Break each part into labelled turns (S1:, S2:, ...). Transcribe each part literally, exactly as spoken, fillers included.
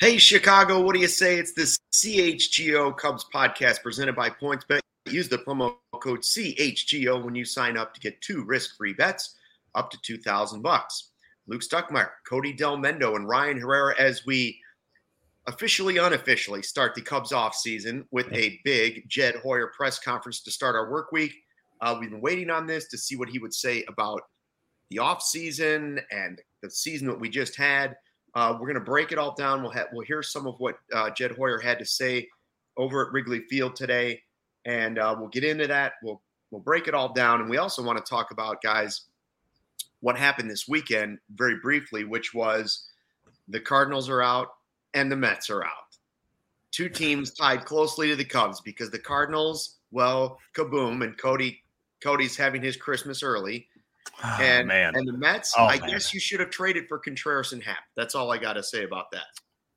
S1: Hey, Chicago, what do you say? It's the C H G O Cubs podcast presented by PointsBet. Use the promo code C H G O when you sign up to get two risk-free bets up to two thousand bucks. Luke Stuckmeyer, Cody Del Mendo, and Ryan Herrera as we officially, unofficially start the Cubs off season with a big Jed Hoyer press conference to start our work week. Uh, we've been waiting on this to see what he would say about the off season and the season that we just had. Uh, we're going to break it all down. We'll have, we'll hear some of what uh, Jed Hoyer had to say over at Wrigley Field today, and uh, we'll get into that. We'll we'll break it all down, and we also want to talk about, guys, what happened this weekend very briefly, which was the Cardinals are out and the Mets are out. Two teams tied closely to the Cubs because the Cardinals, well, kaboom, and Cody Cody's having his Christmas early.
S2: Oh,
S1: and
S2: man.
S1: and the Mets,
S2: oh,
S1: I
S2: man.
S1: guess you should have traded for Contreras and Happ. That's all I got to say about that.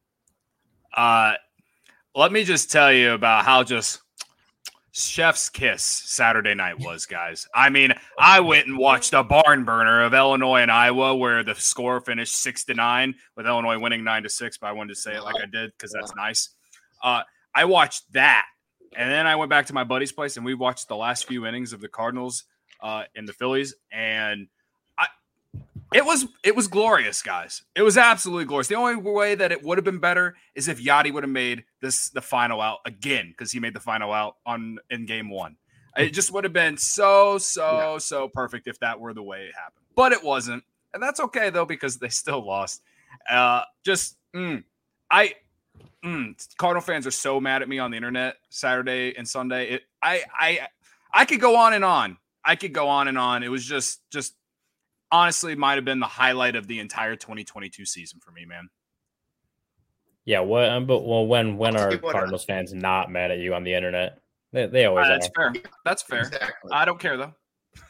S2: Uh, let me just tell you about how just chef's kiss Saturday night was, guys. I mean, I went and watched a barn burner of Illinois and Iowa where the score finished six to nine with Illinois winning nine to six, but I wanted to say it like I did because that's nice. Uh, I watched that, and then I went back to my buddy's place, and we watched the last few innings of the Cardinals Uh, in the Phillies, and I, it was it was glorious, guys. It was absolutely glorious. The only way that it would have been better is if Yachty would have made this the final out again, because he made the final out on in game one. It just would have been so so yeah. so perfect if that were the way it happened, but it wasn't, and that's okay though because they still lost. Uh, just mm, I. Mm, Cardinal fans are so mad at me on the internet Saturday and Sunday. It, I I I could go on and on. I could go on and on. It was just, just honestly might have been the highlight of the entire twenty twenty-two season for me, man.
S3: Yeah, what? Um, but well, when when are Cardinals fans not mad at you on the internet? They, they always
S2: uh, that's
S3: are.
S2: fair. That's fair.
S1: Exactly.
S2: I don't care though.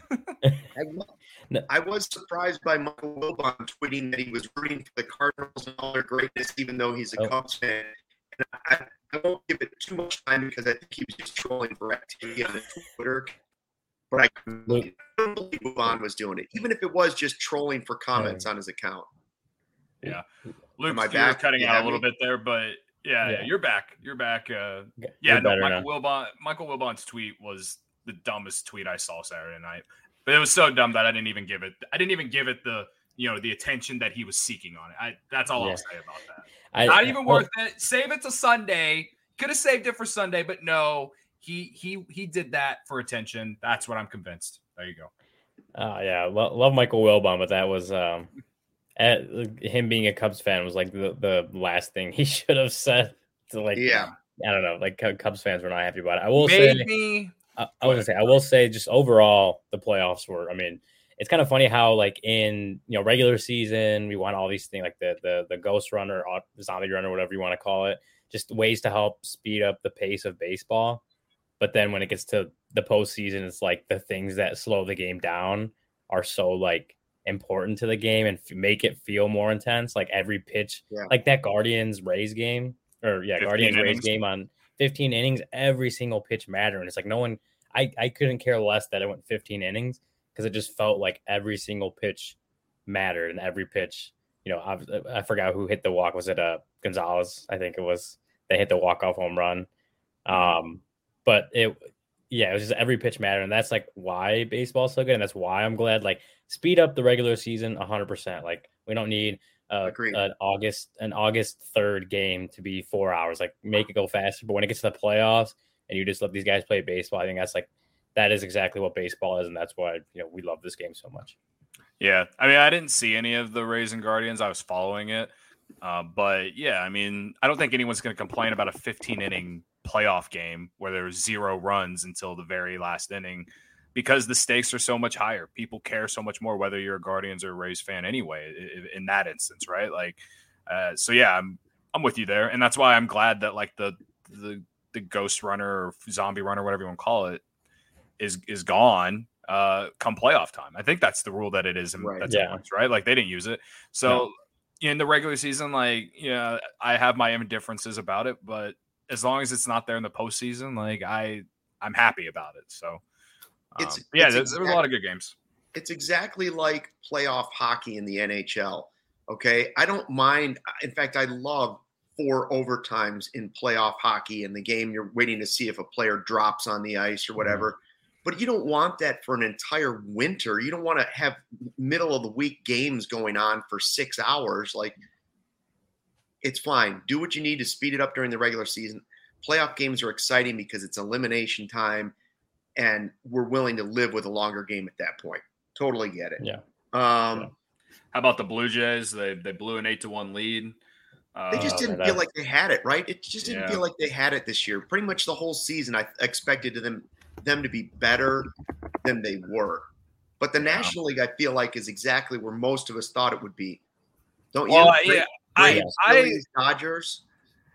S1: I was surprised by Michael Wilbon tweeting that he was rooting for the Cardinals and all their greatness, even though he's a
S3: oh.
S1: Cubs fan. And I, I won't give it too much time because I think he was just trolling for activity on Twitter. But I couldn't believe Wilbon was doing it, even if it was just trolling for comments on his account.
S2: Yeah, Luke,
S1: I
S2: you're
S1: back?
S2: cutting
S1: You
S2: out a
S1: have
S2: little
S1: me?
S2: bit there, but yeah, yeah,
S3: Yeah.
S2: you're back. You're back. Uh,
S3: You're
S2: yeah, no,
S3: better
S2: Michael
S3: now.
S2: Wilbon. Michael Wilbon's tweet was the dumbest tweet I saw Saturday night, but it was so dumb that I didn't even give it. I didn't even give it the you know the attention that he was seeking on it. I that's all
S3: Yeah.
S2: I'll say about that.
S3: I,
S2: Not even
S3: well,
S2: worth it. Save it to Sunday. Could have saved it for Sunday, but no, he he he did that for attention. That's what I'm convinced. There you go.
S3: Uh, yeah, lo- love Michael Wilbon, but that was um, at, him being a Cubs fan was like the, the last thing he should have said. To like,
S1: Yeah.
S3: I don't know, like Cubs fans were not happy about it. I will
S2: Made
S3: say,
S2: me.
S3: I, I was gonna say, I will say, just overall, the playoffs were. I mean, it's kind of funny how like in you know regular season we want all these things like the the the ghost runner, or zombie runner, whatever you want to call it, just ways to help speed up the pace of baseball. But then when it gets to the postseason, it's like the things that slow the game down are so like important to the game and f- make it feel more intense. Like every pitch,
S1: Yeah.
S3: like that Guardians Rays game, or yeah, Guardians Rays game on fifteen innings. Every single pitch mattered, and it's like no one. I I couldn't care less that it went fifteen innings because it just felt like every single pitch mattered, and every pitch. You know, I, I forgot who hit the walk. Was it uh Gonzalez? I think it was. They hit the walk off home run. Um. But it, yeah, it was just every pitch mattered, and that's like why baseball is so good, and that's why I'm glad. Like, speed up the regular season one hundred percent. Like, we don't need uh, an August an August third game to be four hours. Like, make it go faster. But when it gets to the playoffs, and you just let these guys play baseball, I think that's like that is exactly what baseball is, and that's why you know we love this game so much.
S2: Yeah, I mean, I didn't see any of the Rays and Guardians. I was following it, uh, but yeah, I mean, I don't think anyone's going to complain about a fifteen inning playoff game where there's zero runs until the very last inning because the stakes are so much higher. People care so much more whether you're a Guardians or Rays fan anyway in that instance, right? Like, uh, so yeah, I'm I'm with you there, and that's why I'm glad that like the the the ghost runner or zombie runner, whatever you want to call it, is is gone uh, come playoff time. I think that's the rule that it is. In,
S1: right.
S2: That's
S3: Yeah.
S2: in, right? Like they didn't use it, so. No. In the regular season, like, yeah, I have my indifferences about it, but as long as it's not there in the postseason, like I, I'm happy about it. So, um,
S1: it's
S2: yeah,
S1: it's
S2: there,
S1: exactly,
S2: there was a lot of good games.
S1: It's exactly like playoff hockey in the N H L. Okay, I don't mind. In fact, I love four overtimes in playoff hockey. In the game, you're waiting to see if a player drops on the ice or whatever. Mm-hmm. But you don't want that for an entire winter. You don't want to have middle of the week games going on for six hours. Like, it's fine. Do what you need to speed it up during the regular season. Playoff games are exciting because it's elimination time, and we're willing to live with a longer game at that point. Totally get it.
S3: Yeah.
S1: Um,
S2: yeah. How about the Blue Jays? They they blew an eight to one lead. Uh,
S1: they just didn't feel like they had it, right? It just didn't
S2: yeah.
S1: feel like they had it this year. Pretty much the whole season, I expected them them to be better than they were. But the yeah. National League, I feel like, is exactly where most of us thought it would be. Don't you?
S2: Well,
S1: Great,
S2: yeah,
S1: Braves,
S2: I,
S1: Phillies, Dodgers.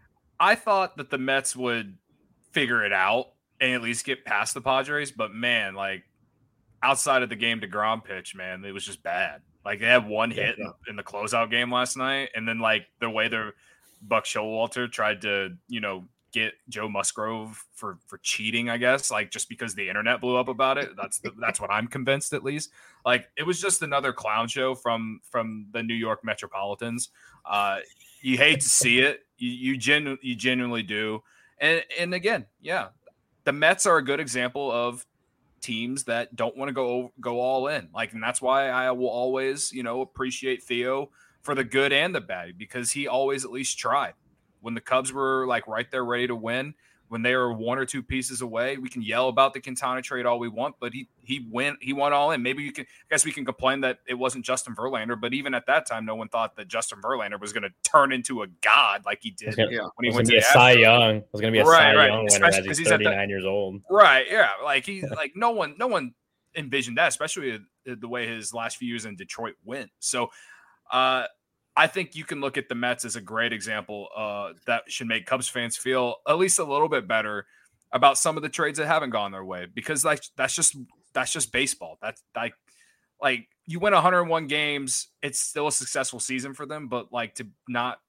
S2: I thought that the Mets would figure it out and at least get past the Padres, but man, like outside of the game DeGrom pitch, man, it was just bad. Like they had one hit yeah. in, in the closeout game last night, and then like the way the Buck Showalter tried to, you know, get Joe Musgrove for for cheating, I guess, like just because the internet blew up about it. That's the, that's what I'm convinced, at least. Like it was just another clown show from from the New York Metropolitans. Uh, you hate to see it. You you, genu- you genuinely do. And and again, yeah, the Mets are a good example of teams that don't want to go go all in. Like, and that's why I will always, you know, appreciate Theo for the good and the bad, because he always at least tried. When the Cubs were like right there ready to win, when they were one or two pieces away, we can yell about the Quintana trade all we want, but he he went he went all in. Maybe you can I guess we can complain that it wasn't Justin Verlander, but even at that time, no one thought that Justin Verlander was going to turn into a god like he did
S3: gonna,
S2: yeah. when he
S3: was
S2: went
S3: to be
S2: the
S3: a Cy Young. It was going to be a
S2: right,
S3: Cy
S2: right.
S3: Young winner as he's thirty-nine years old.
S2: Right, yeah. Like he like no one no one envisioned that, especially the way his last few years in Detroit went. So, uh I think you can look at the Mets as a great example uh, that should make Cubs fans feel at least a little bit better about some of the trades that haven't gone their way, because like that's just that's just baseball. That's like like you win one hundred one games, it's still a successful season for them, but like to not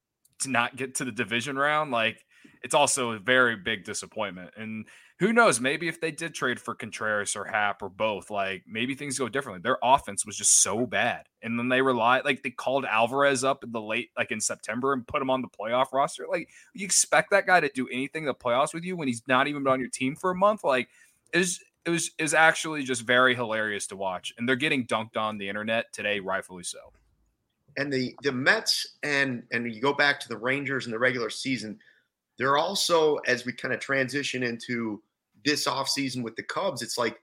S2: to not get to the division round, like it's also a very big disappointment. And who knows, maybe if they did trade for Contreras or Happ or both, like maybe things go differently. Their offense was just so bad. And then they relied, like they called Alvarez up in the late, like in September and put him on the playoff roster. Like you expect that guy to do anything in the playoffs with you when he's not even been on your team for a month. Like it was, it was, it was actually just very hilarious to watch. And they're getting dunked on the internet today, rightfully so.
S1: And the, the Mets and, and you go back to the Rangers in the regular season, they're also, as we kind of transition into this offseason with the Cubs, it's like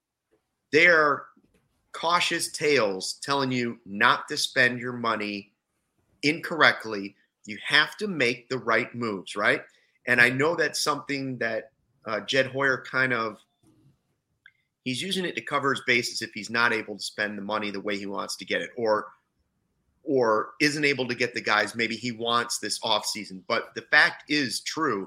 S1: they're cautious tales telling you not to spend your money incorrectly. You have to make the right moves, right? And I know that's something that uh, Jed Hoyer kind of, he's using it to cover his bases if he's not able to spend the money the way he wants to get it, or or isn't able to get the guys maybe he wants this offseason. But the fact is true.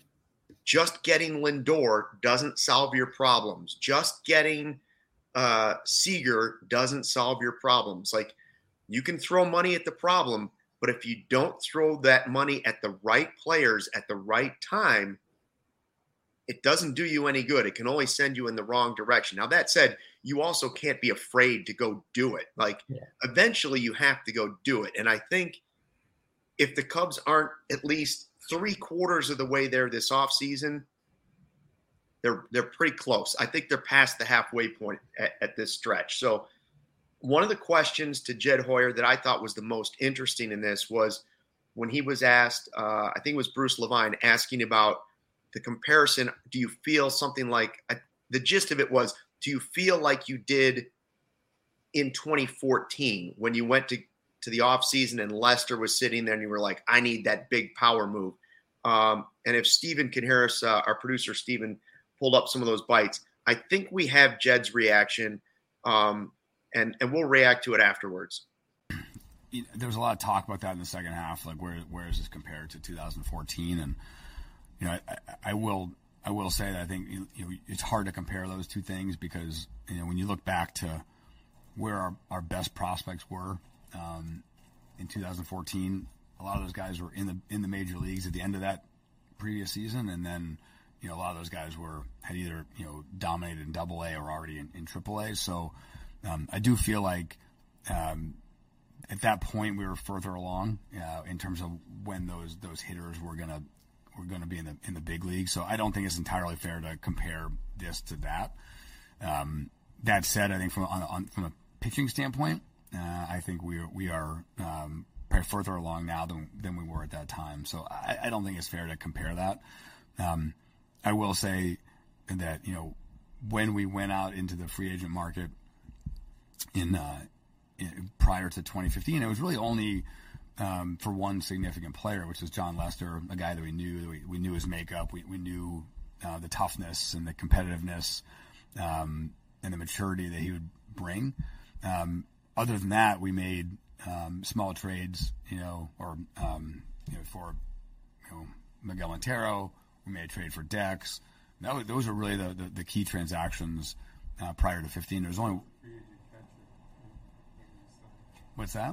S1: Just getting Lindor doesn't solve your problems. Just getting uh, Seager doesn't solve your problems. Like, you can throw money at the problem, but if you don't throw that money at the right players at the right time, it doesn't do you any good. It can only send you in the wrong direction. Now, that said, you also can't be afraid to go do it. Like, yeah. Eventually you have to go do it. And I think if the Cubs aren't at least three quarters of the way there this offseason, they're they're pretty close. I think they're past the halfway point at, at this stretch. So one of the questions to Jed Hoyer that I thought was the most interesting in this was when he was asked, uh, I think it was Bruce Levine, asking about the comparison. Do you feel something like uh, the gist of it was, do you feel like you did in twenty fourteen when you went to, to the offseason and Lester was sitting there and you were like, I need that big power move. Um, and if Stephen Harris, uh, our producer, Stephen, pulled up some of those bites, I think we have Jed's reaction, um, and, and we'll react to it afterwards.
S4: You know, there was a lot of talk about that in the second half, like where where is this compared to two thousand fourteen? And you know, I, I will I will say that I think you know, it's hard to compare those two things because you know when you look back to where our, our best prospects were um, in two thousand fourteen, a lot of those guys were in the in the major leagues at the end of that previous season, and then you know a lot of those guys were had either you know dominated in Double A or already in, in Triple A. So um, I do feel like um, at that point we were further along uh, in terms of when those those hitters were gonna were gonna be in the in the big league. So I don't think it's entirely fair to compare this to that. Um, that said, I think from on, on from a pitching standpoint, uh, I think we are, we are um, probably further along now than than we were at that time. So I, I don't think it's fair to compare that. Um, I will say that, you know, when we went out into the free agent market in, uh, in prior to twenty fifteen, it was really only um, for one significant player, which was Jon Lester, a guy that we knew, that we, we knew his makeup, we, we knew uh, the toughness and the competitiveness um, and the maturity that he would bring. Um, other than that, we made um, small trades, you know, or um, you know, for you know, Miguel Montero. We made a trade for Dex. That was, those are really the, the, the key transactions uh, prior to fifteen. There was only what's that?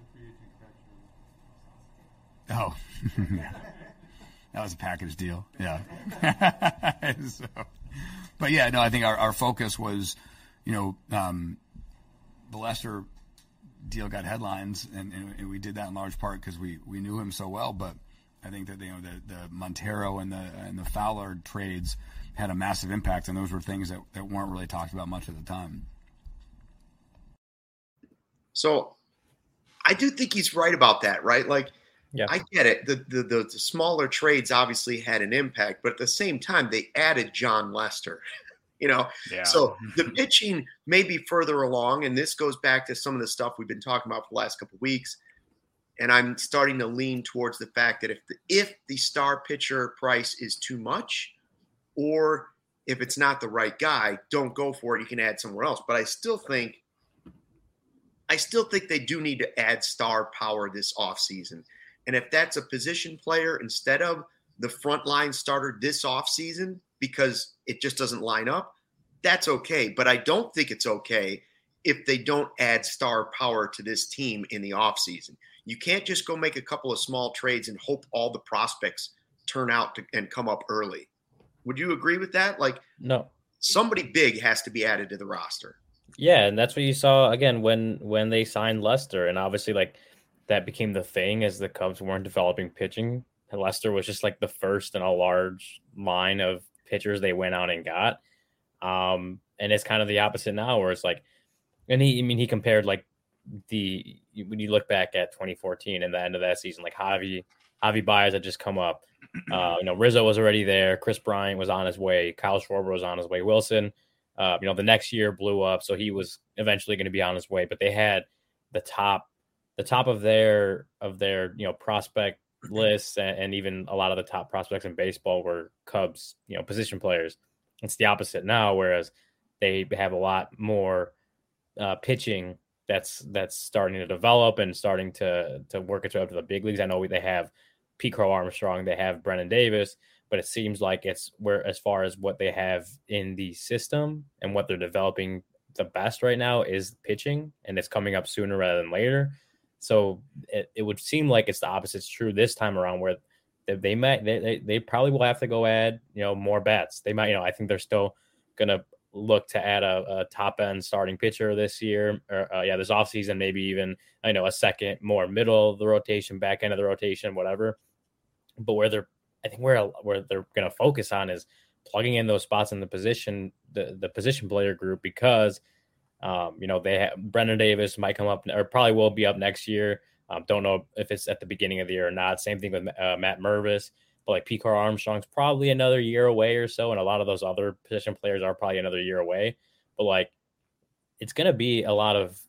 S4: Oh, that was a package deal. Yeah. so, but yeah, no, I think our, our focus was, you know, um, the Lester deal got headlines, and, and we did that in large part because we, we knew him so well. But I think that, you know, the, the Montero and the and the Fowler trades had a massive impact, and those were things that, that weren't really talked about much at the time.
S1: So I do think he's right about that, right? Like, yeah. I get it. The, the the the smaller trades obviously had an impact, but at the same time, they added Jon Lester. You know, yeah. So the pitching may be further along, and this goes back to some of the stuff we've been talking about for the last couple of weeks. And I'm starting to lean towards the fact that if the, if the star pitcher price is too much, or if it's not the right guy, don't go for it. You can add somewhere else. But I still think, I still think they do need to add star power this offseason. And if that's a position player instead of the frontline starter this offseason because it just doesn't line up, that's okay. But I don't think it's okay if they don't add star power to this team in the offseason. You can't just go make a couple of small trades and hope all the prospects turn out to, and come up early. Would you agree with that? Like,
S3: no,
S1: somebody big has to be added to the roster.
S3: Yeah, and that's what you saw again when when they signed Lester, and obviously like that became the thing as the Cubs weren't developing pitching. Lester was just like the first in a large line of pitchers they went out and got. Um, and it's kind of the opposite now, where it's like, and he, I mean, he compared like the when you look back at twenty fourteen and the end of that season, like Javi, Javi Baez had just come up. Uh, you know, Rizzo was already there. Chris Bryant was on his way. Kyle Schwarber was on his way. Wilson, uh, you know, the next year blew up, so he was eventually going to be on his way. But they had the top, the top of their of their you know prospect lists, and, and even a lot of the top prospects in baseball were Cubs, you know, position players. It's the opposite now, whereas they have a lot more uh, pitching that's that's starting to develop and starting to to work its way up to the big leagues. I know they have Pete Crow Armstrong, they have Brennan Davis, but it seems like it's where as far as what they have in the system and what they're developing the best right now is pitching, and it's coming up sooner rather than later. So it, it would seem like it's the opposite's true this time around, where they, they might they, they they probably will have to go add you know more bats. They might you know I think they're still gonna look to add a, a top end starting pitcher this year, or uh, yeah, this offseason, maybe even I know a second more middle of the rotation, back end of the rotation, whatever. But where they're I think where where they're gonna focus on is plugging in those spots in the position the the position player group, because um, you know they have Brennan Davis might come up or probably will be up next year. Um, don't know if it's at the beginning of the year or not. Same thing with uh, Matt Mervis. But like Pete Crow Armstrong's probably another year away or so, and a lot of those other position players are probably another year away. But like, it's going to be a lot of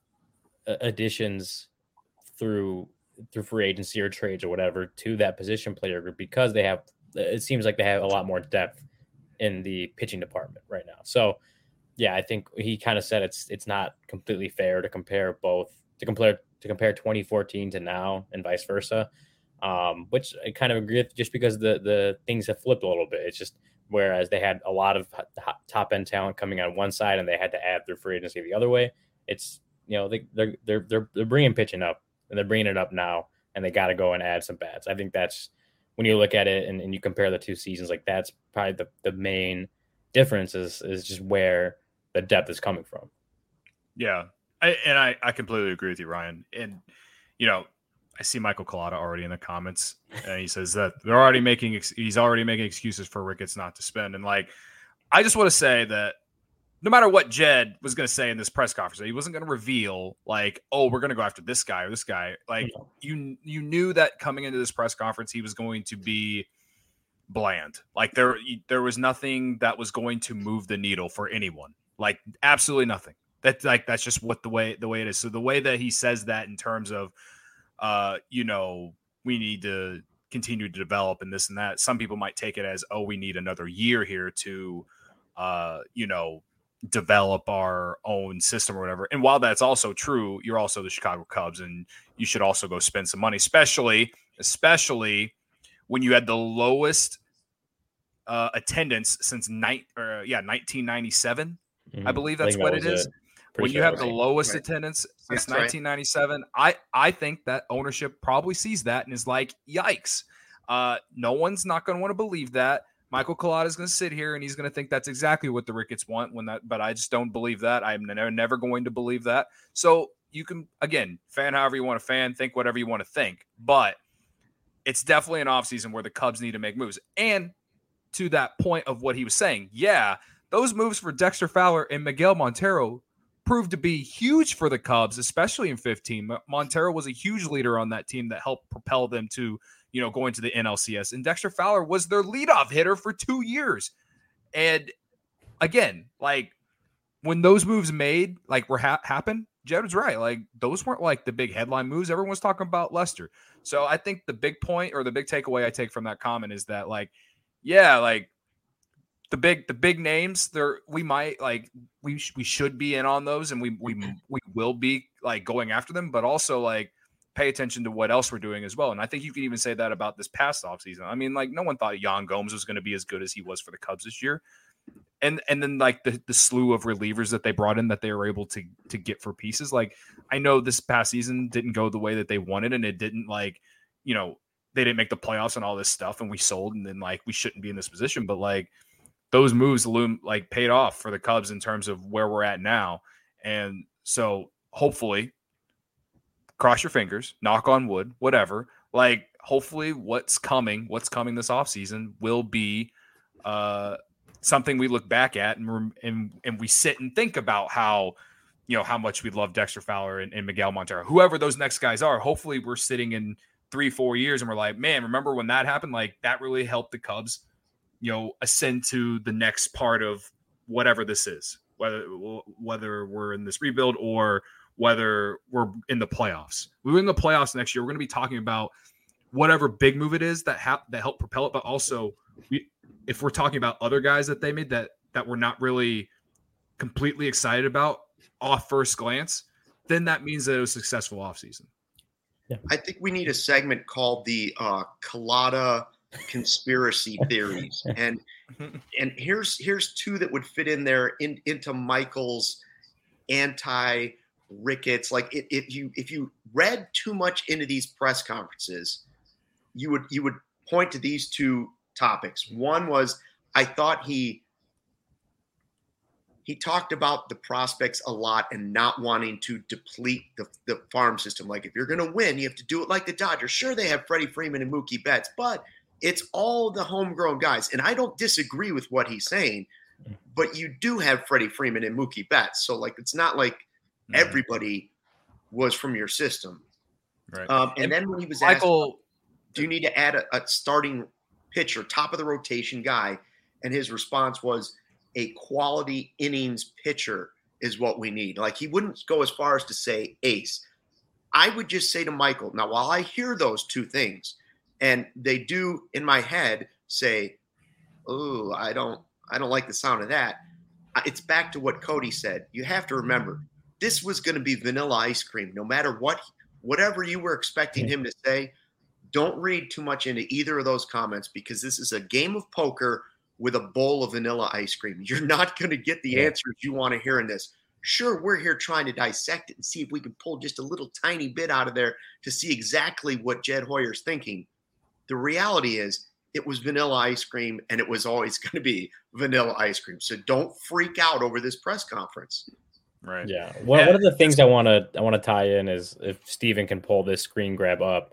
S3: additions through through free agency or trades or whatever to that position player group, because they have. It seems like they have a lot more depth in the pitching department right now. So, yeah, I think he kind of said it's it's not completely fair to compare both to compare to compare twenty fourteen to now and vice versa. Um, which I kind of agree with, just because the the things have flipped a little bit. It's just whereas they had a lot of top end talent coming on one side and they had to add their free agency the other way. It's you know they they're they're they're, they're bringing pitching up, and they're bringing it up now, and they got to go and add some bats. I think that's when you look at it and, and you compare the two seasons, like that's probably the the main difference is is just where the depth is coming from.
S2: Yeah, I, and I I completely agree with you, Ryan. And you know, I see Michael Collada already in the comments, and he says that they're already making ex- he's already making excuses for Ricketts not to spend. And like, I just want to say that no matter what Jed was going to say in this press conference, he wasn't going to reveal like, oh, we're going to go after this guy or this guy. Like you, you knew that coming into this press conference, he was going to be bland. Like there, there was nothing that was going to move the needle for anyone. Like absolutely nothing. That's like that's just what the way the way it is. So the way that he says that in terms of, uh, you know, we need to continue to develop and this and that. Some people might take it as, oh, we need another year here to, uh, you know, develop our own system or whatever. And while that's also true, you're also the Chicago Cubs, and you should also go spend some money, especially, especially when you had the lowest uh, attendance since night or yeah, nineteen ninety-seven. Mm-hmm. I believe that's I what that it is. It. When sure you have right. the lowest right. attendance since that's nineteen ninety-seven, right. I, I think that ownership probably sees that and is like, yikes. Uh, no one's not going to want to believe that. Michael Collada is going to sit here and he's going to think that's exactly what the Ricketts want when that, but I just don't believe that. I'm never, never going to believe that. So you can, again, fan however you want to fan, think whatever you want to think, but it's definitely an offseason where the Cubs need to make moves. And to that point of what he was saying, yeah, those moves for Dexter Fowler and Miguel Montero proved to be huge for the Cubs, especially in fifteen. Montero was a huge leader on that team that helped propel them to, you know, going to the N L C S. And Dexter Fowler was their leadoff hitter for two years. And again, like when those moves made, like were ha- happen, Jed was right. Like those weren't like the big headline moves. Everyone's talking about Lester. So I think the big point or the big takeaway I take from that comment is that like, yeah, like the big, the big names there, we might like, we, sh- we should be in on those and we, we, we will be like going after them, but also like, pay attention to what else we're doing as well. And I think you can even say that about this past offseason. I mean, like no one thought Yan Gomes was going to be as good as he was for the Cubs this year. And and then like the, the slew of relievers that they brought in that they were able to to get for pieces. Like I know this past season didn't go the way that they wanted and it didn't like, you know, they didn't make the playoffs and all this stuff and we sold and then like we shouldn't be in this position. But like those moves loom like paid off for the Cubs in terms of where we're at now. And so hopefully cross your fingers, knock on wood, whatever. Like, hopefully what's coming, what's coming this offseason will be uh, something we look back at and, and and we sit and think about how, you know, how much we love Dexter Fowler and, and Miguel Montero. Whoever those next guys are, hopefully we're sitting in three, four years and we're like, man, remember when that happened? Like, that really helped the Cubs, you know, ascend to the next part of whatever this is, whether whether we're in this rebuild or whether we're in the playoffs. We're in the playoffs next year. We're going to be talking about whatever big move it is that ha- that helped propel it. But also, we, if we're talking about other guys that they made that that we're not really completely excited about off first glance, then that means that it was a successful offseason.
S1: Yeah. I think we need a segment called the uh, Collada conspiracy theories. And and here's here's two that would fit in there in, into Michael's anti Ricketts. Like if, if you if you read too much into these press conferences, you would you would point to these two topics. One was I thought he he talked about the prospects a lot and not wanting to deplete the, the farm system. Like if you're going to win, you have to do it like the Dodgers. Sure, they have Freddie Freeman and Mookie Betts, but it's all the homegrown guys. And I don't disagree with what he's saying, but you do have Freddie Freeman and Mookie Betts. So like it's not like everybody was from your system.
S2: Right.
S1: Um, and, and then when he was
S2: Michael,
S1: asked, do you need to add a, a starting pitcher, top of the rotation guy? And his response was a quality innings pitcher is what we need. Like he wouldn't go as far as to say ace. I would just say to Michael, now, while I hear those two things and they do in my head say, oh, I don't, I don't like the sound of that. It's back to what Cody said. You have to remember, this was going to be vanilla ice cream. No matter what, whatever you were expecting him to say, don't read too much into either of those comments because this is a game of poker with a bowl of vanilla ice cream. You're not going to get the answers you want to hear in this. Sure, we're here trying to dissect it and see if we can pull just a little tiny bit out of there to see exactly what Jed Hoyer's thinking. The reality is it was vanilla ice cream and it was always going to be vanilla ice cream. So don't freak out over this press conference.
S2: Right.
S3: Yeah. One,
S2: yeah.
S3: one of the things I want to I want to tie in is if Steven can pull this screen grab up.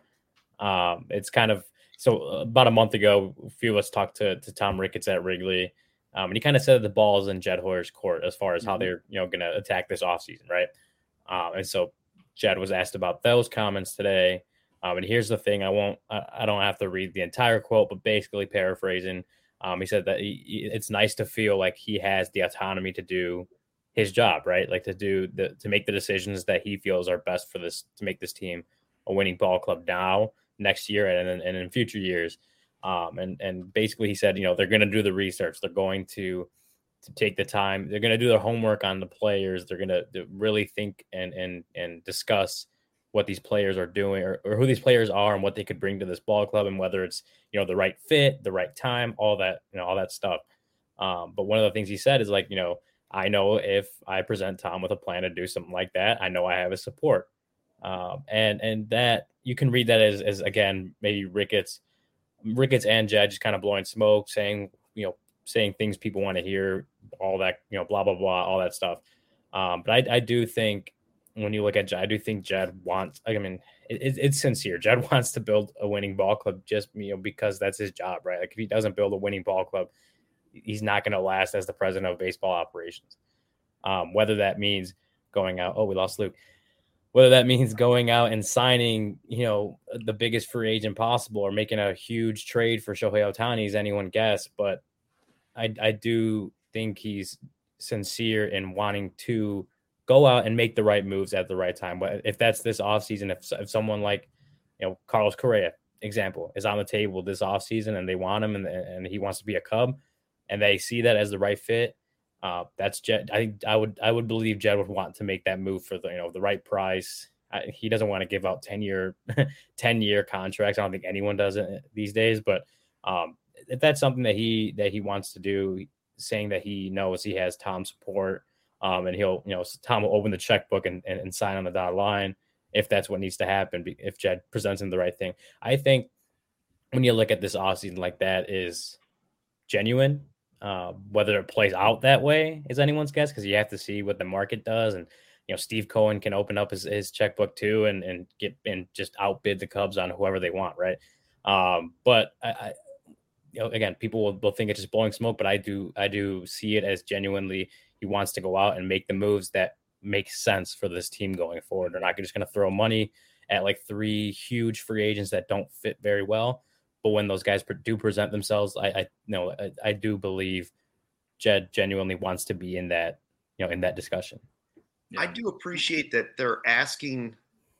S3: Um, it's kind of so about a month ago, a few of us talked to to Tom Ricketts at Wrigley, um, and he kind of said the ball's in Jed Hoyer's court as far as mm-hmm. how they're you know going to attack this offseason, right? Um, and so Jed was asked about those comments today. Um, and here's the thing: I won't, I, I don't have to read the entire quote, but basically paraphrasing, um, he said that he, it's nice to feel like he has the autonomy to do his job, right? Like to do the to make the decisions that he feels are best for this to make this team a winning ball club now, next year, and and in future years. Um, and and basically, he said, you know, they're going to do the research. They're going to to take the time. They're going to do their homework on the players. They're going to really think and and and discuss what these players are doing or, or who these players are and what they could bring to this ball club and whether it's, you know, the right fit, the right time, all that, you know, all that stuff. Um, but one of the things he said is like, you know, I know if I present Tom with a plan to do something like that, I know I have his support. Um, and, and that you can read that as, as again, maybe Ricketts, Ricketts and Jed just kind of blowing smoke, saying, you know, saying things people want to hear, all that, you know, blah, blah, blah, all that stuff. Um, but I, I do think when you look at Jed, I do think Jed wants, I mean, it, it's sincere. Jed wants to build a winning ball club just, you know, because that's his job, right? Like if he doesn't build a winning ball club, he's not going to last as the president of baseball operations. Um, whether that means going out, oh, we lost Luke. Whether that means going out and signing, you know, the biggest free agent possible or making a huge trade for Shohei Ohtani is anyone guess. But I, I do think he's sincere in wanting to go out and make the right moves at the right time. But if that's this offseason, if, if someone like, you know, Carlos Correa, example, is on the table this offseason and they want him and, and he wants to be a Cub and they see that as the right fit, uh, that's Jed. I think I would I would believe Jed would want to make that move for the, you know, the right price. I, he doesn't want to give out ten year ten year contracts. I don't think anyone does it these days. But um, if that's something that he that he wants to do, saying that he knows he has Tom's support, um, and he'll, you know, Tom will open the checkbook and, and, and sign on the dotted line if that's what needs to happen. If Jed presents him the right thing, I think when you look at this offseason like that is genuine. Uh, whether it plays out that way is anyone's guess because you have to see what the market does. And, you know, Steve Cohen can open up his, his checkbook too and, and get and just outbid the Cubs on whoever they want. Right. Um, but I, I, you know, again, people will, will think it's just blowing smoke, but I do, I do see it as genuinely he wants to go out and make the moves that make sense for this team going forward. They're not just going to throw money at like three huge free agents that don't fit very well. But when those guys do present themselves, I, I know I, I do believe Jed genuinely wants to be in that, you know, in that discussion.
S1: Yeah. I do appreciate that they're asking,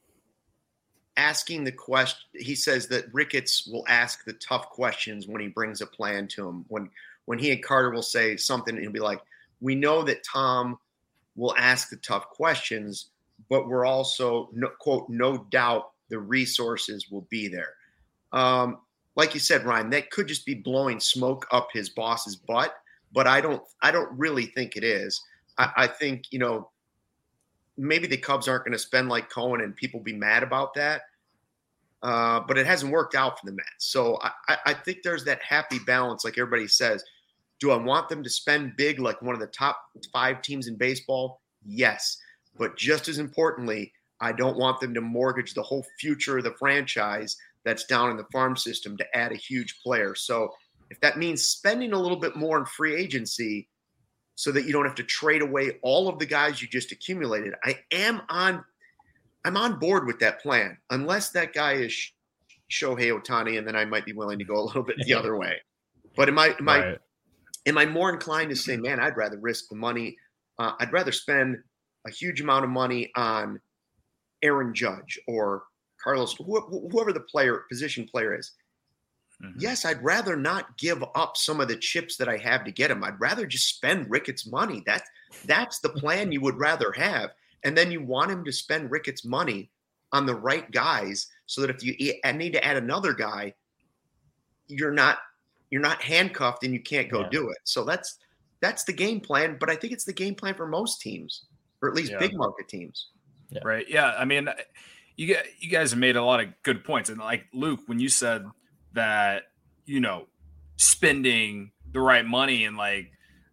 S1: asking the question. He says that Ricketts will ask the tough questions when he brings a plan to him. When when he and Carter will say something, he'll be like, "We know that Tom will ask the tough questions, but we're also no, quote no doubt the resources will be there." Um, Like you said, Ryan, that could just be blowing smoke up his boss's butt, but I don't, I don't really think it is. I, I think, you know, maybe the Cubs aren't going to spend like Cohen and people be mad about that, uh, but it hasn't worked out for the Mets. So I, I think there's that happy balance, like everybody says. Do I want them to spend big like one of the top five teams in baseball? Yes, but just as importantly, I don't want them to mortgage the whole future of the franchise that's down in the farm system to add a huge player. So if that means spending a little bit more in free agency so that you don't have to trade away all of the guys you just accumulated, I am on, I'm on board with that plan, unless that guy is Shohei Ohtani, and then I might be willing to go a little bit the other way. But am I, am I, right. am I more inclined to say, man, I'd rather risk the money. Uh, I'd rather spend a huge amount of money on Aaron Judge or Carlos, whoever the player, position player is. Mm-hmm. Yes, I'd rather not give up some of the chips that I have to get him. I'd rather just spend Ricketts' money. That's that's the plan you would rather have. And then you want him to spend Ricketts' money on the right guys so that if you need to add another guy, you're not you're not handcuffed and you can't go yeah. do it. So that's that's the game plan. But I think it's the game plan for most teams, or at least yeah. big market teams.
S2: Yeah. Right. Yeah. I mean, You get, you guys have made a lot of good points. And like Luke, when you said that, you know, spending the right money and like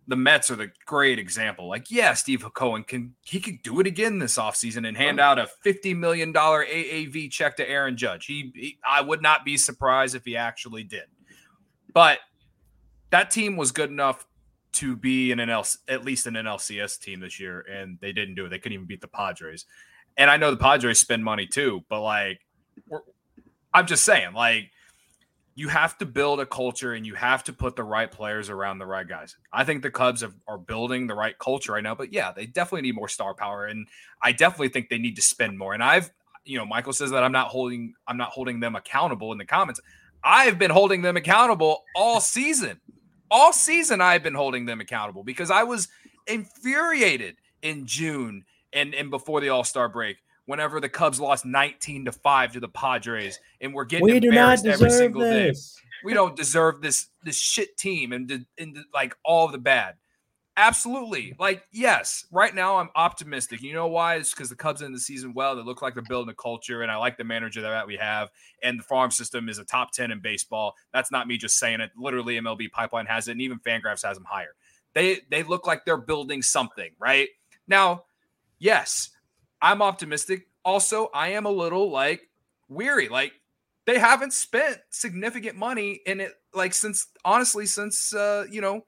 S2: the Mets are the great example. Like, yeah, Steve Cohen can he could do it again this offseason and hand out a fifty million dollars A A V check to Aaron Judge. He, he I would not be surprised if he actually did. But that team was good enough to be an N L, at least an N L C S team this year, and they didn't do it. They couldn't even beat the Padres. And I know the Padres spend money too, but like, we're, I'm just saying, like, you have to build a culture and you have to put the right players around the right guys. I think the Cubs have, are building the right culture right now, but yeah, they definitely need more star power. And I definitely think they need to spend more. And I've, you know, Michael says that I'm not holding, I'm not holding them accountable in the comments. I've been holding them accountable all season. All season I've been holding them accountable because I was infuriated in June and, and before the All-Star break whenever the Cubs lost nineteen to five to the Padres and we're getting we embarrassed every single this. day. We don't deserve this this shit team and, and like all of the bad. Absolutely. Like, yes, right now I'm optimistic. You know why? It's because the Cubs end the season well. They look like they're building a culture, and I like the manager that we have. And the farm system is a top ten in baseball. That's not me just saying it. Literally, M L B Pipeline has it, and even Fangraphs has them higher. They they look like they're building something, right? Now, yes, I'm optimistic. Also, I am a little, like, weary. Like, they haven't spent significant money in it, like, since, honestly, since, uh, you know,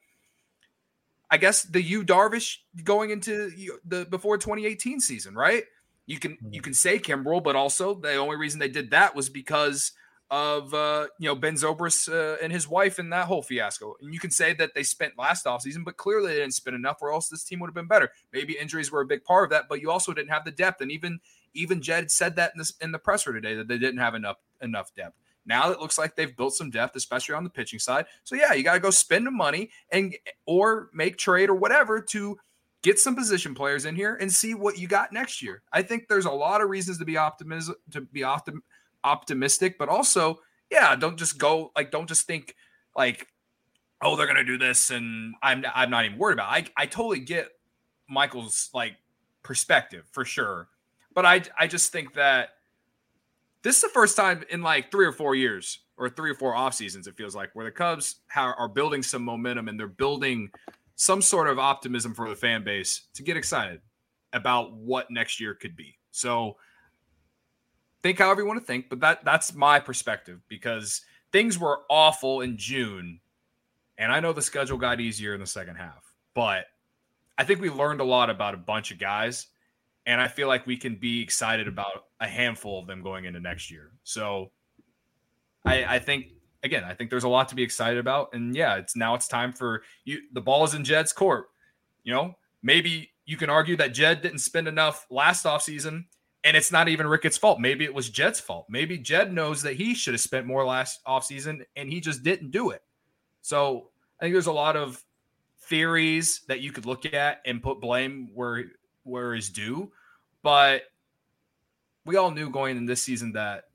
S2: I guess the Yu Darvish going into the before twenty eighteen season, right? You can you can say Kimbrel, but also the only reason they did that was because of uh, you know Ben Zobrist uh, and his wife and that whole fiasco. And you can say that they spent last offseason, but clearly they didn't spend enough, or else this team would have been better. Maybe injuries were a big part of that, but you also didn't have the depth. And even even Jed said that in this in the presser today that they didn't have enough enough depth. Now it looks like they've built some depth, especially on the pitching side. So, yeah, you got to go spend the money and or make trade or whatever to get some position players in here and see what you got next year. I think there's a lot of reasons to be optimism to be optim, optimistic, but also, yeah, don't just go like don't just think like, oh, they're gonna do this and I'm I'm not even worried about it. I I totally get Michael's like perspective for sure, but I I just think that. This is the first time in like three or four years or three or four off seasons, it feels like, where the Cubs are building some momentum and they're building some sort of optimism for the fan base to get excited about what next year could be. So think however you want to think, but that that's my perspective because things were awful in June. And I know the schedule got easier in the second half, but I think we learned a lot about a bunch of guys. And I feel like we can be excited about a handful of them going into next year. So I, I think, again, I think there's a lot to be excited about. And yeah, it's now it's time for you. The ball is in Jed's court. You know, maybe you can argue that Jed didn't spend enough last offseason and it's not even Ricketts' fault. Maybe it was Jed's fault. Maybe Jed knows that he should have spent more last offseason and he just didn't do it. So I think there's a lot of theories that you could look at and put blame where where is due, but we all knew going in this season that,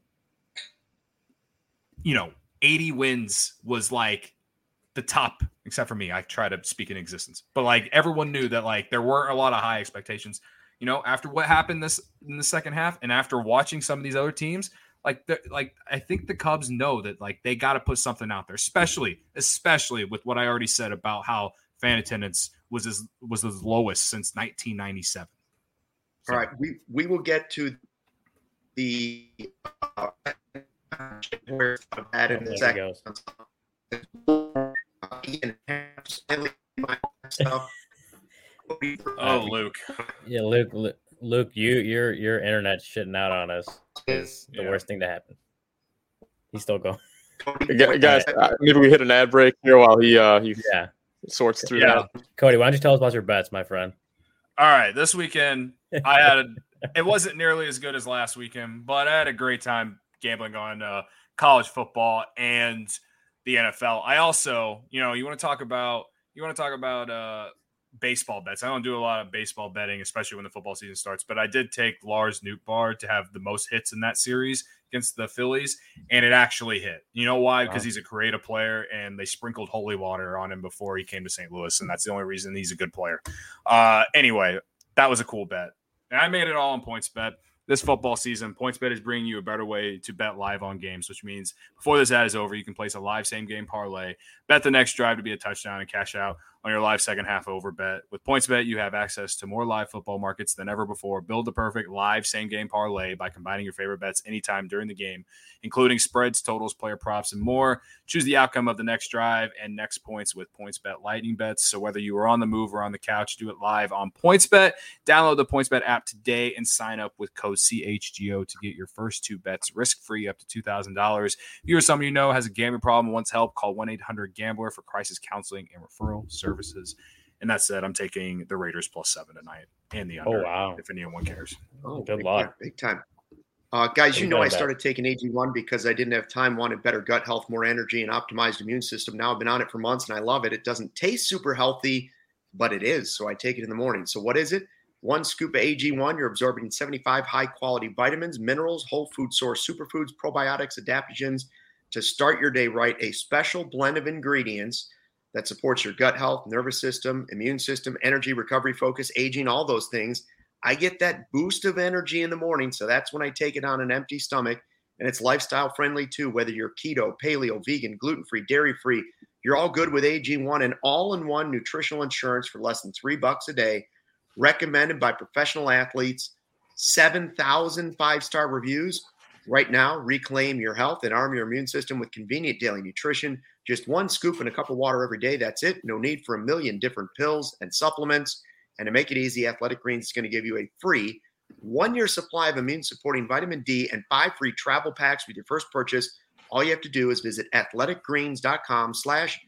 S2: you know, eighty wins was like the top, except for me. I try to speak in existence, but like everyone knew that like there weren't a lot of high expectations, you know, after what happened this in the second half and after watching some of these other teams, like, like I think the Cubs know that like they got to put something out there, especially, especially with what I already said about how fan attendance was as was the lowest since nineteen ninety-seven. So.
S1: All right, we we will get to the uh, where that in a second.
S2: Oh, Luke.
S3: Yeah, Luke. Luke, you your your internet's shitting out on us. Is the yeah. worst thing to happen. He's still going.
S5: Guys, uh, maybe we hit an ad break here while he uh he
S3: yeah.
S5: sorts through
S2: yeah.
S5: that.
S3: Cody, why don't you tell us about your bets, my friend?
S2: All right, this weekend I had a, it wasn't nearly as good as last weekend, but I had a great time gambling on uh, college football and the N F L. I also, you know, you want to talk about you want to talk about uh, baseball bets. I don't do a lot of baseball betting, especially when the football season starts, but I did take Lars Nootbaar to have the most hits in that series against the Phillies, and it actually hit. You know why? Because wow. he's a creative player, and they sprinkled holy water on him before he came to Saint Louis, and that's the only reason he's a good player. Uh, anyway, that was a cool bet. And I made it all on PointsBet. This football season, PointsBet is bringing you a better way to bet live on games, which means before this ad is over, you can place a live same-game parlay, bet the next drive to be a touchdown, and cash out on your live second half over bet. With PointsBet, you have access to more live football markets than ever before. Build the perfect live same-game parlay by combining your favorite bets anytime during the game, including spreads, totals, player props, and more. Choose the outcome of the next drive and next points with PointsBet Lightning Bets. So whether you are on the move or on the couch, do it live on PointsBet. Download the PointsBet app today and sign up with code C H G O to get your first two bets risk-free up to two thousand dollars. If you or someone you know has a gambling problem and wants help, call one eight hundred gambler for crisis counseling and referral services. And that said, I'm taking the Raiders plus seven tonight and the under.
S3: Oh, wow.
S2: If anyone cares.
S1: Oh,
S3: good
S1: big
S3: luck.
S1: Time, big time. Uh, guys, you
S3: Big
S1: know
S3: time
S1: I
S3: bet.
S1: started taking A G one because I didn't have time, wanted better gut health, more energy, and optimized immune system. Now I've been on it for months, and I love it. It doesn't taste super healthy, but it is, so I take it in the morning. So what is it? One scoop of A G one, you're absorbing seventy-five high-quality vitamins, minerals, whole food source superfoods, probiotics, adaptogens to start your day right. A special blend of ingredients that supports your gut health, nervous system, immune system, energy, recovery, focus, aging, all those things. I get that boost of energy in the morning, so that's when I take it on an empty stomach, and it's lifestyle friendly too, whether you're keto, paleo, vegan, gluten-free, dairy-free. You're all good with A G one, and all-in-one nutritional insurance for less than three bucks a day, recommended by professional athletes, seven thousand five-star reviews. Right now, reclaim your health and arm your immune system with convenient daily nutrition. Just one scoop and a cup of water every day. That's it. No need for a million different pills and supplements. And to make it easy, Athletic Greens is going to give you a free one-year supply of immune-supporting vitamin D and five free travel packs with your first purchase. All you have to do is visit athleticgreens.com slash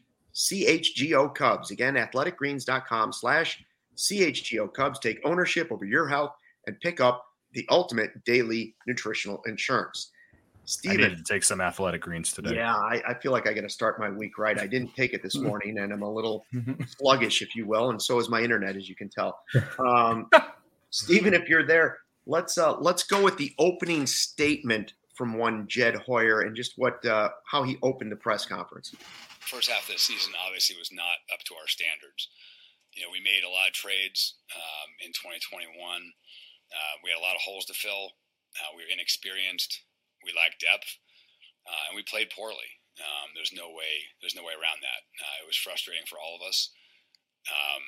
S1: CHGO Cubs. Again, athleticgreens.com slash CHGO Cubs. Take ownership over your health and pick up the ultimate daily nutritional insurance. Steven,
S2: I need to take some Athletic Greens today.
S1: Yeah, I, I feel like I got to start my week right. I didn't take it this morning, and I'm a little sluggish, if you will, and so is my internet, as you can tell. Um, Steven, if you're there, let's uh, let's go with the opening statement from one Jed Hoyer and just what uh, how he opened the press conference.
S6: First half of the season obviously was not up to our standards. You know, we made a lot of trades um, in twenty twenty-one. Uh, we had a lot of holes to fill. Uh, we were inexperienced. We lacked depth, uh, and we played poorly. Um, there's no way. There's no way around that. Uh, it was frustrating for all of us. Um,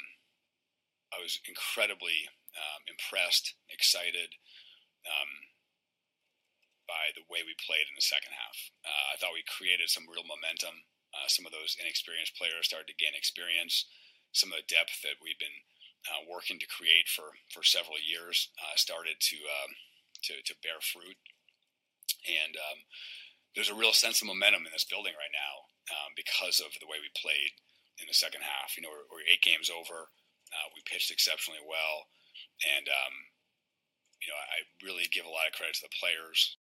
S6: I was incredibly um, impressed, excited um, by the way we played in the second half. Uh, I thought we created some real momentum. Uh, some of those inexperienced players started to gain experience. Some of the depth that we've been uh, working to create for, for several years uh, started to, um, to to bear fruit. And um, there's a real sense of momentum in this building right now um, because of the way we played in the second half. You know, we're, we're eight games over. Uh, we pitched exceptionally well. And, um, you know, I really give a lot of credit to the players.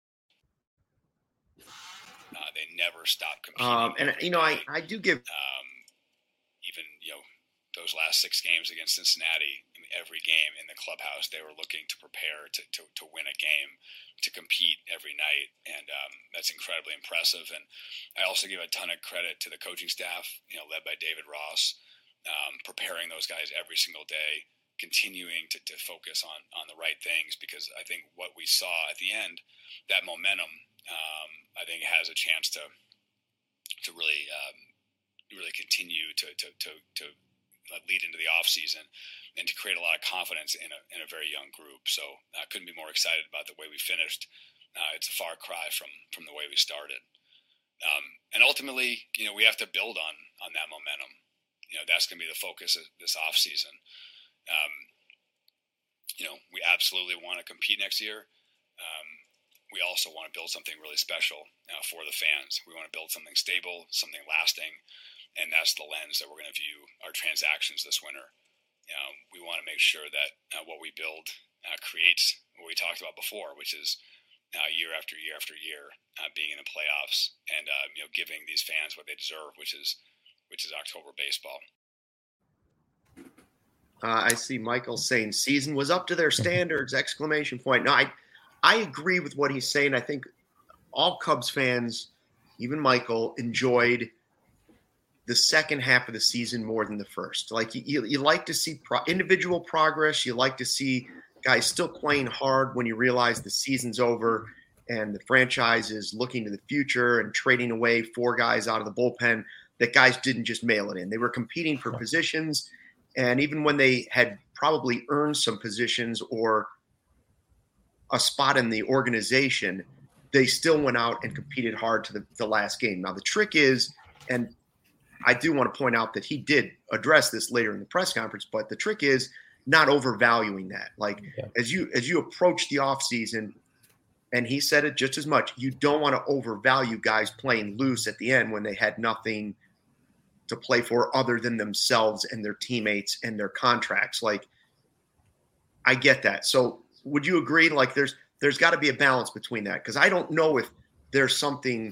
S6: Uh, they never stopped competing.
S1: Um, and, you know, I, I do give
S6: um, even, you know, those last six games against Cincinnati, I mean, every game in the clubhouse, they were looking to prepare to, to, to win a game, to compete every night. And um, that's incredibly impressive. And I also give a ton of credit to the coaching staff, you know, led by David Ross, um, preparing those guys every single day, continuing to, to focus on, on the right things, because I think what we saw at the end, that momentum, um, I think has a chance to, to really, um, really continue to, to, to, to lead into the off season and to create a lot of confidence in a, in a very young group. So I couldn't be more excited about the way we finished. Uh, it's a far cry from, from the way we started. Um, and ultimately, you know, we have to build on, on that momentum. You know, that's going to be the focus of this off season. Um, you know, we absolutely want to compete next year. Um, we also want to build something really special uh, for the fans. We want to build something stable, something lasting. And that's the lens that we're going to view our transactions this winter. Um, we want to make sure that uh, what we build uh, creates what we talked about before, which is uh, year after year after year uh, being in the playoffs and uh, you know, giving these fans what they deserve, which is which is October baseball.
S1: Uh, I see Michael saying season was up to their standards, exclamation point. No, I, I agree with what he's saying. I think all Cubs fans, even Michael, enjoyed the second half of the season more than the first. Like you, you, you like to see pro- individual progress. You like to see guys still playing hard when you realize the season's over and the franchise is looking to the future and trading away four guys out of the bullpen. that guys didn't just mail it in. They were competing for positions, and even when they had probably earned some positions or a spot in the organization, they still went out and competed hard to the, the last game. Now, the trick is, and I do want to point out that he did address this later in the press conference, but the trick is not overvaluing that. Like yeah. as you as you approach the offseason, and he said it just as much, you don't want to overvalue guys playing loose at the end when they had nothing to play for other than themselves and their teammates and their contracts. Like, I get that. So would you agree? Like there's, there's got to be a balance between that. Cause I don't know if there's something,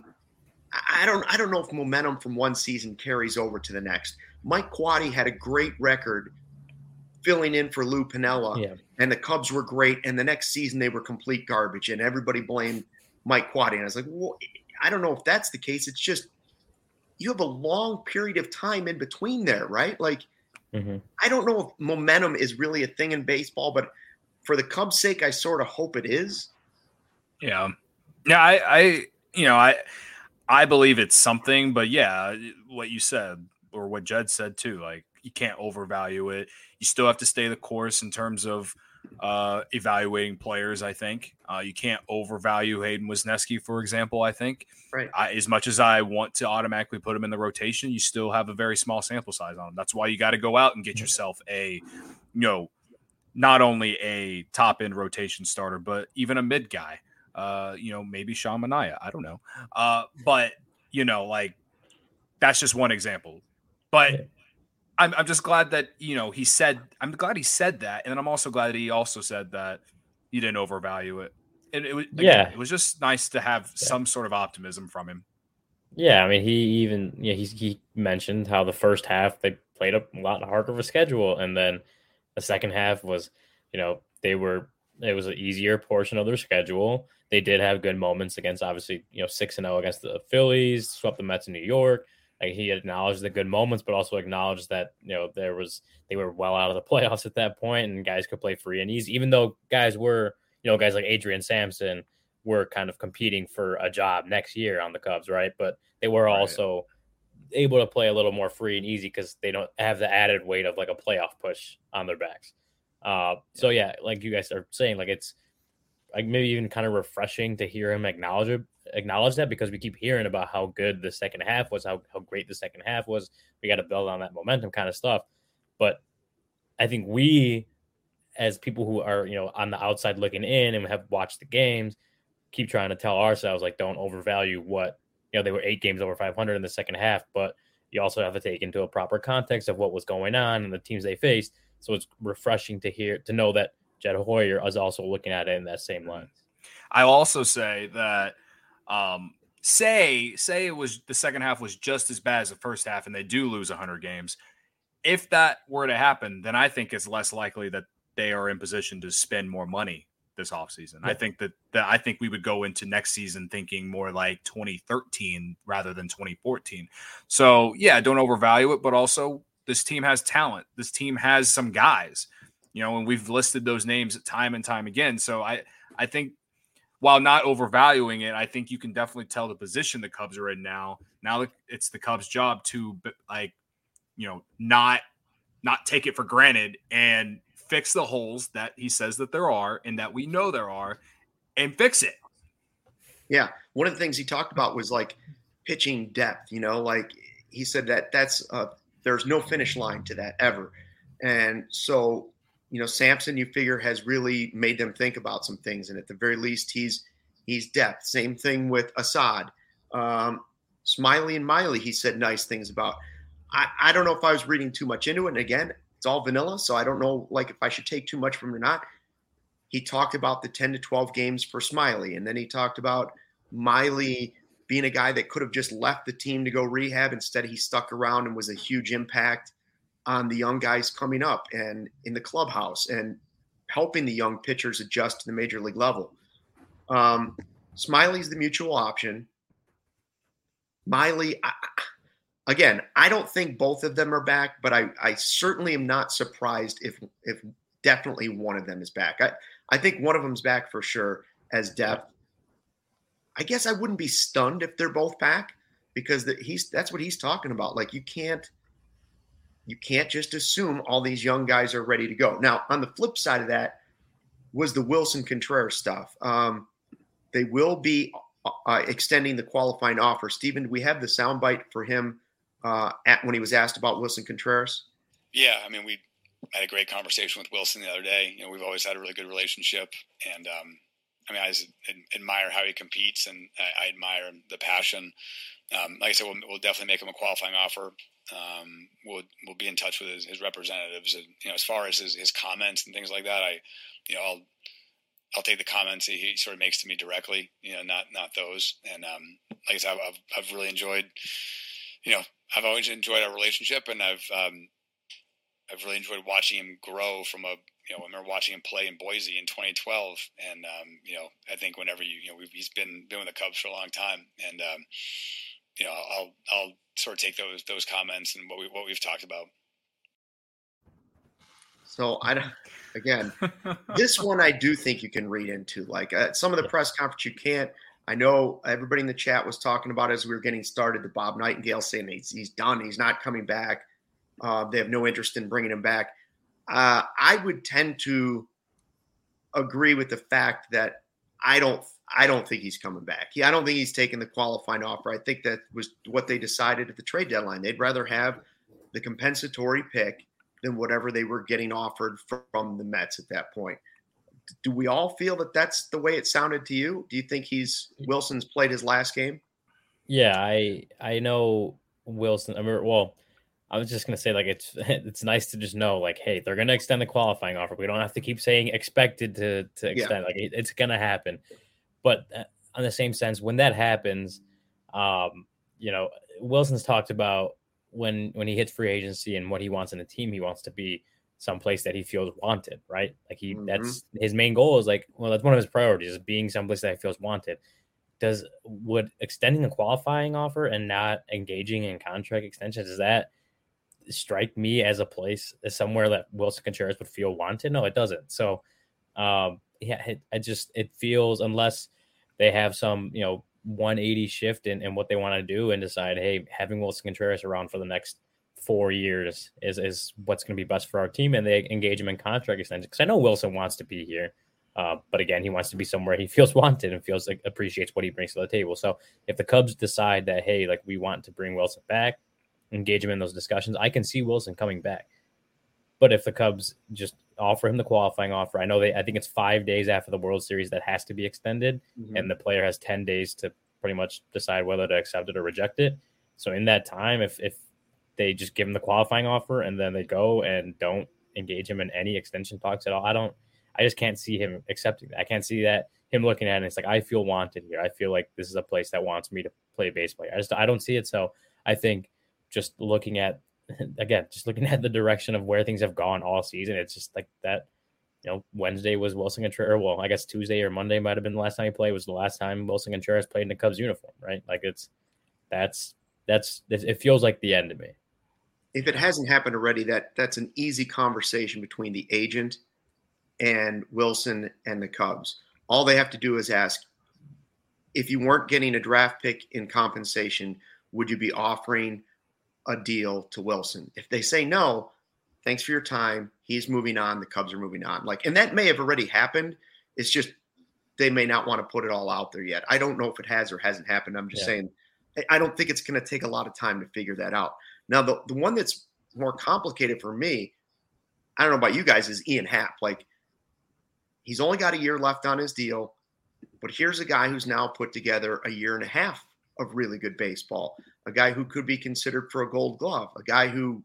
S1: I don't, I don't know if momentum from one season carries over to the next. Mike Quade had a great record filling in for Lou Piniella, yeah. and the Cubs were great. And the next season they were complete garbage and everybody blamed Mike Quade. And I was like, well, I don't know if that's the case. It's just, you have a long period of time in between there, right? Like, mm-hmm. I don't know if momentum is really a thing in baseball, but for the Cubs' sake, I sort of hope it is.
S2: Yeah. Yeah. I, I, you know, I, I believe it's something, but yeah, what you said or what Jed said too, like you can't overvalue it. You still have to stay the course in terms of uh, evaluating players. I think uh, you can't overvalue Hayden Wesneski, for example. I think
S1: right.
S2: I, as much as I want to automatically put him in the rotation, you still have a very small sample size on him. That's why you got to go out and get yourself a, you know, not only a top end rotation starter, but even a mid guy. Uh, you know, maybe Sean Manaea. I don't know. Uh, but, you know, like that's just one example. But yeah. I'm, I'm just glad that, you know, he said, I'm glad he said that. And then I'm also glad that he also said that he didn't overvalue it. And it was, again, yeah, it was just nice to have yeah. some sort of optimism from him.
S3: Yeah. I mean, he even, yeah, he, he mentioned how the first half they played a lot harder of a schedule. And then the second half was, you know, they were, it was an easier portion of their schedule. They did have good moments against, obviously, you know, six and oh against the Phillies, swept the Mets in New York. Like he acknowledged the good moments, but also acknowledged that, you know, there was, they were well out of the playoffs at that point and guys could play free and easy, even though guys were, you know, guys like Adrian Sampson were kind of competing for a job next year on the Cubs. Right. But they were right. also able to play a little more free and easy because they don't have the added weight of like a playoff push on their backs. Uh, so yeah, like you guys are saying, like it's like maybe even kind of refreshing to hear him acknowledge it. acknowledge that because we keep hearing about how good the second half was, how, how great the second half was. We got to build on that momentum kind of stuff. But I think we, as people who are, you know, on the outside looking in and have watched the games, keep trying to tell ourselves, like, don't overvalue what, you know, they were eight games over five hundred in the second half, but you also have to take into a proper context of what was going on and the teams they faced. So it's refreshing to hear, to know that Jed Hoyer is also looking at it in that same lens.
S2: I'll also say that, Um, say, say it was the second half was just as bad as the first half and they do lose one hundred games. If that were to happen, then I think it's less likely that they are in position to spend more money this offseason. Yeah. I think that, that I think we would go into next season thinking more like twenty thirteen rather than twenty fourteen. So yeah, don't overvalue it, but also this team has talent. This team has some guys, you know, and we've listed those names time and time again. So I, I think, while not overvaluing it, I think you can definitely tell the position the Cubs are in now. Now it's the Cubs' job to, like, you know, not not take it for granted and fix the holes that he says that there are and that we know there are, and fix it.
S1: Yeah, one of the things he talked about was like pitching depth. You know, like he said that that's uh, there's no finish line to that ever, and so. You know, Sampson, you figure, has really made them think about some things. And at the very least, he's he's depth. Same thing with Assad. Um, Smiley and Miley, he said nice things about. I, I don't know if I was reading too much into it. And again, it's all vanilla, so I don't know like if I should take too much from it or not. He talked about the ten to twelve games for Smiley. And then he talked about Miley being a guy that could have just left the team to go rehab. Instead, he stuck around and was a huge impact on the young guys coming up and in the clubhouse and helping the young pitchers adjust to the major league level. Um, Smiley's the mutual option. Miley, I, again, I don't think both of them are back, but I, I certainly am not surprised if if definitely one of them is back. I, I think one of them's back for sure as depth. I guess I wouldn't be stunned if they're both back because the, he's that's what he's talking about. Like you can't you can't just assume all these young guys are ready to go. Now, on the flip side of that was the Willson Contreras stuff. Um, they will be uh, extending the qualifying offer. Stephen, do we have the soundbite for him uh, at when he was asked about Willson Contreras?
S6: Yeah, I mean, we had a great conversation with Willson the other day. You know, we've always had a really good relationship, and um, I mean, I just admire how he competes, and I, I admire the passion. Um, like I said, we'll, we'll definitely make him a qualifying offer. Um, we'll we'll be in touch with his, his representatives, and you know, as far as his, his comments and things like that, I, you know, I'll I'll take the comments that he sort of makes to me directly, you know, not not those. And um, like I said, I've I've really enjoyed, you know, I've always enjoyed our relationship, and I've um, I've really enjoyed watching him grow from a, you know, I remember watching him play in Boise in twenty twelve. And, um, you know, I think whenever you, you know, we've, he's been been with the Cubs for a long time. And, um, you know, I'll, I'll sort of take those, those comments and what we, what we've talked about.
S1: So I don't, again, this one I do think you can read into, like uh, some of the press conference you can't. I know everybody in the chat was talking about as we were getting started, the Bob Nightingale saying he's, he's done. He's not coming back. Uh, they have no interest in bringing him back. Uh, I would tend to agree with the fact that I don't I don't think he's coming back. He, I don't think he's taking the qualifying offer. I think that was what they decided at the trade deadline. They'd rather have the compensatory pick than whatever they were getting offered from the Mets at that point. Do we all feel that that's the way it sounded to you? Do you think he's Wilson's played his last game?
S3: Yeah, I I know Willson. I mean, well, I was just gonna say, like, it's it's nice to just know, like, hey, they're gonna extend the qualifying offer. We don't have to keep saying expected to to extend. Yeah. Like, it, it's gonna happen. But on the same sense, when that happens, um, you know, Wilson's talked about when when he hits free agency and what he wants in a team, he wants to be someplace that he feels wanted, right? Like he, mm-hmm. that's his main goal is like, well, that's one of his priorities is being someplace that he feels wanted. Does would extending the qualifying offer and not engaging in contract extensions, does that strike me as a place, as somewhere that Willson Contreras would feel wanted? No, it doesn't. So, um, yeah, it, it just, it feels, unless they have some, you know, one eighty shift in, in what they want to do and decide, hey, having Willson Contreras around for the next four years is, is what's going to be best for our team. And they engage him in contract extension. Because I know Wilson wants to be here. Uh, but again, he wants to be somewhere he feels wanted and feels like appreciates what he brings to the table. So if the Cubs decide that, hey, like we want to bring Wilson back, engage him in those discussions, I can see Wilson coming back. But if the Cubs just offer him the qualifying offer, I know they, I think it's five days after the World Series that has to be extended. Mm-hmm. And the player has ten days to pretty much decide whether to accept it or reject it. So in that time, if, if they just give him the qualifying offer and then they go and don't engage him in any extension talks at all, I don't, I just can't see him accepting that. I can't see that him looking at it and it's like, I feel wanted here. I feel like this is a place that wants me to play baseball. I just, I don't see it. So I think just looking at, again, just looking at the direction of where things have gone all season, it's just like that, you know, Wednesday was Willson Contreras. Well, I guess Tuesday or Monday might've been the last time he played, was the last time Willson Contreras played in the Cubs uniform, right? Like it's, that's, that's, it feels like the end to me.
S1: If it hasn't happened already, that that's an easy conversation between the agent and Wilson and the Cubs. All they have to do is ask, if you weren't getting a draft pick in compensation, would you be offering a deal to Wilson? If they say no, thanks for your time. He's moving on. The Cubs are moving on. Like, and that may have already happened. It's just they may not want to put it all out there yet. I don't know if it has or hasn't happened. I'm just yeah. saying, I don't think it's going to take a lot of time to figure that out. Now, the, the one that's more complicated for me, I don't know about you guys, is Ian Happ. Like, he's only got a year left on his deal, but here's a guy who's now put together a year and a half of really good baseball, a guy who could be considered for a Gold Glove, a guy who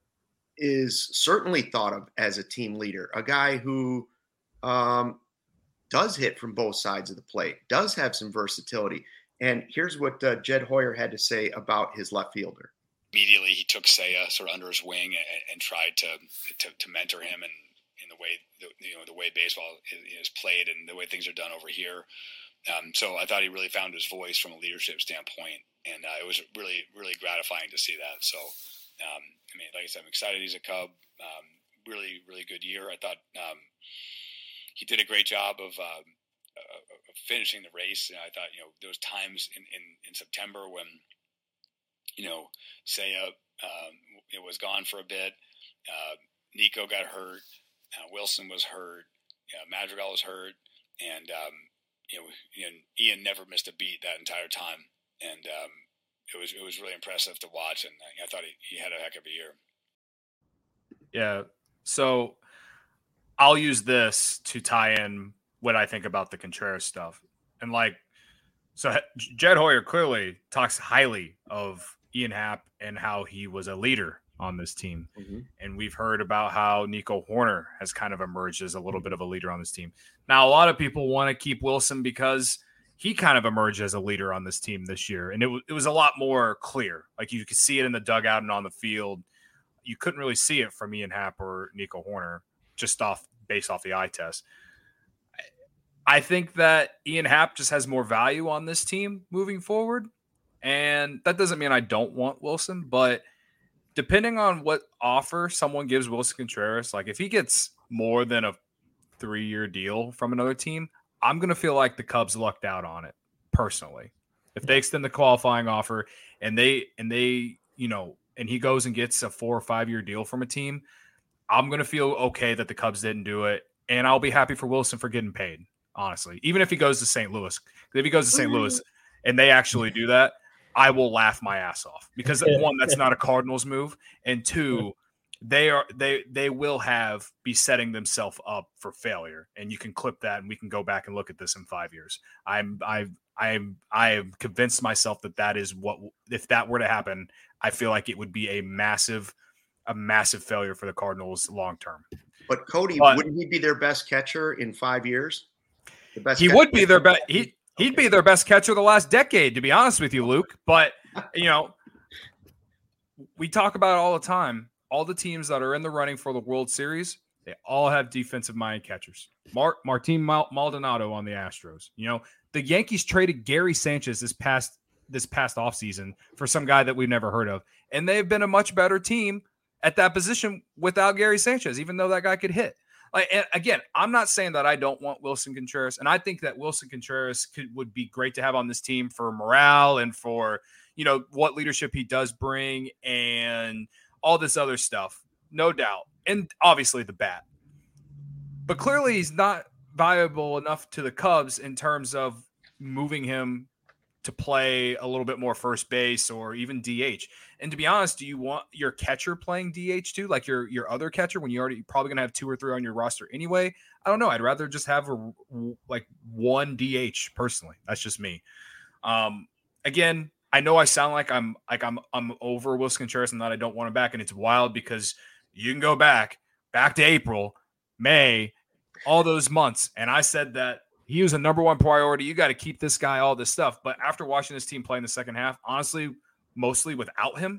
S1: is certainly thought of as a team leader, a guy who um, does hit from both sides of the plate, does have some versatility. And here's what uh, Jed Hoyer had to say about his left fielder.
S6: Immediately, he took Seiya sort of under his wing and, and tried to, to to mentor him and in the way the, you know the way baseball is, is played and the way things are done over here. Um, so I thought he really found his voice from a leadership standpoint, and uh, it was really really gratifying to see that. So um, I mean, like I said, I'm excited he's a Cub. Um, really really good year. I thought um, he did a great job of, uh, of finishing the race. And I thought you know there was times in, in, in September when you know, Saya um, it was gone for a bit. Uh, Nico got hurt. Uh, Wilson was hurt. Uh, Madrigal was hurt, and um, you know, and Ian never missed a beat that entire time, and um, it was it was really impressive to watch. And I, I thought he, he had a heck of a year.
S2: Yeah. So I'll use this to tie in what I think about the Contreras stuff, and like, so Jed Hoyer clearly talks highly of Ian Happ and how he was a leader on this team. Mm-hmm. And we've heard about how Nico Hoerner has kind of emerged as a little bit of a leader on this team. Now, a lot of people want to keep Wilson because he kind of emerged as a leader on this team this year. And it, w- it was a lot more clear. Like you could see it in the dugout and on the field. You couldn't really see it from Ian Happ or Nico Hoerner just off based off the eye test. I think that Ian Happ just has more value on this team moving forward. And that doesn't mean I don't want Wilson, but depending on what offer someone gives Wilson Contreras, like if he gets more than a three-year deal from another team, I'm going to feel like the Cubs lucked out on it personally. If they extend the qualifying offer and they, and they, you know, and he goes and gets a four or five-year deal from a team, I'm going to feel okay that the Cubs didn't do it. And I'll be happy for Wilson for getting paid, honestly, even if he goes to Saint Louis. If he goes to Saint Louis and they actually do that, I will laugh my ass off because one, that's not a Cardinals move, and two, they are they they will have be setting themselves up for failure. And you can clip that, and we can go back and look at this in five years. I'm I I'm I have convinced myself that that is what if that were to happen, I feel like it would be a massive a massive failure for the Cardinals long term.
S1: But Cody, but, wouldn't he be their best catcher in five years?
S2: The best. He would be their best. He. He'd be their best catcher the last decade, to be honest with you, Luke. But, you know, we talk about it all the time. All the teams that are in the running for the World Series, they all have defensive-minded catchers. Mar- Martin Mal- Maldonado on the Astros. You know, the Yankees traded Gary Sanchez this past this past offseason for some guy that we've never heard of. And they've been a much better team at that position without Gary Sanchez, even though that guy could hit. Like, and again, I'm not saying that I don't want Wilson Contreras, and I think that Wilson Contreras could would be great to have on this team for morale and for, you know, what leadership he does bring and all this other stuff, no doubt, and obviously the bat. But clearly, he's not valuable enough to the Cubs in terms of moving him to play a little bit more first base or even D H. And to be honest, do you want your catcher playing D H too? Like your, your other catcher when you already you're probably going to have two or three on your roster anyway. I don't know. I'd rather just have a, like one D H personally. That's just me. Um, again, I know I sound like I'm like I'm I'm over Wilson Contreras and that I don't want him back. And it's wild because you can go back, back to April, May, all those months. And I said that he was a number one priority. You got to keep this guy, all this stuff. But after watching this team play in the second half, honestly, mostly without him,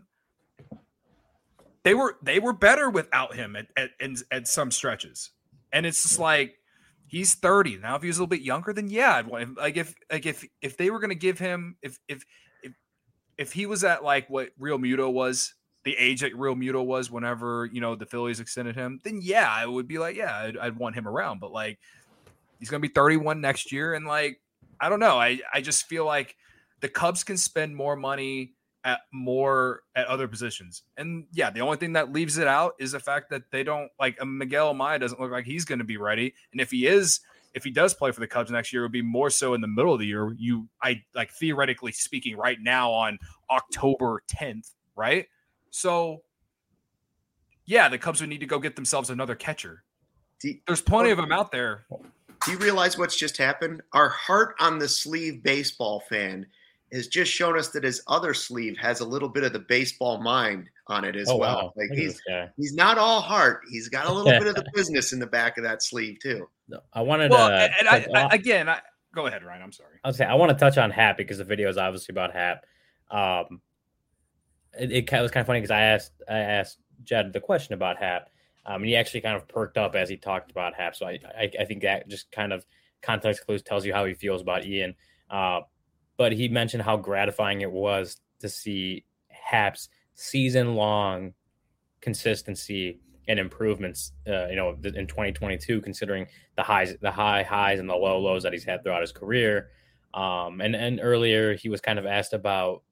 S2: they were they were better without him at, at, at, at some stretches. And it's just like he's thirty now. If he was a little bit younger, then yeah, I'd want him. Like if like if if they were going to give him if if if if he was at like what Real Muto was, the age that Real Muto was whenever you know the Phillies extended him, then yeah, I would be like yeah, I'd, I'd want him around. But like. He's going to be thirty-one next year. And like, I don't know. I, I just feel like the Cubs can spend more money at more at other positions. And yeah, the only thing that leaves it out is the fact that they don't like Miguel Amaya doesn't look like he's going to be ready. And if he is, if he does play for the Cubs next year, it would be more so in the middle of the year. You, I like theoretically speaking right now on October tenth, right? So yeah, the Cubs would need to go get themselves another catcher. There's plenty of them out there.
S1: Do you realize what's just happened? Our heart on the sleeve baseball fan has just shown us that his other sleeve has a little bit of the baseball mind on it as
S3: oh,
S1: well.
S3: Wow.
S1: Like he's he's not all heart. He's got a little bit of the business in the back of that sleeve too.
S3: I wanted
S2: well,
S3: to
S2: and I, I, again. I, go ahead, Ryan. I'm sorry.
S3: I was saying I want to touch on Happ because the video is obviously about Happ. Um, it, it was kind of funny because I asked I asked Jed the question about Happ. Um, and he actually kind of perked up as he talked about Happ. So I, I, I think that just kind of context clues tells you how he feels about Ian. Uh, but he mentioned how gratifying it was to see Happ's season-long consistency and improvements, uh, you know, in twenty twenty-two, considering the highs, the high highs and the low lows that he's had throughout his career. Um, and, and earlier he was kind of asked about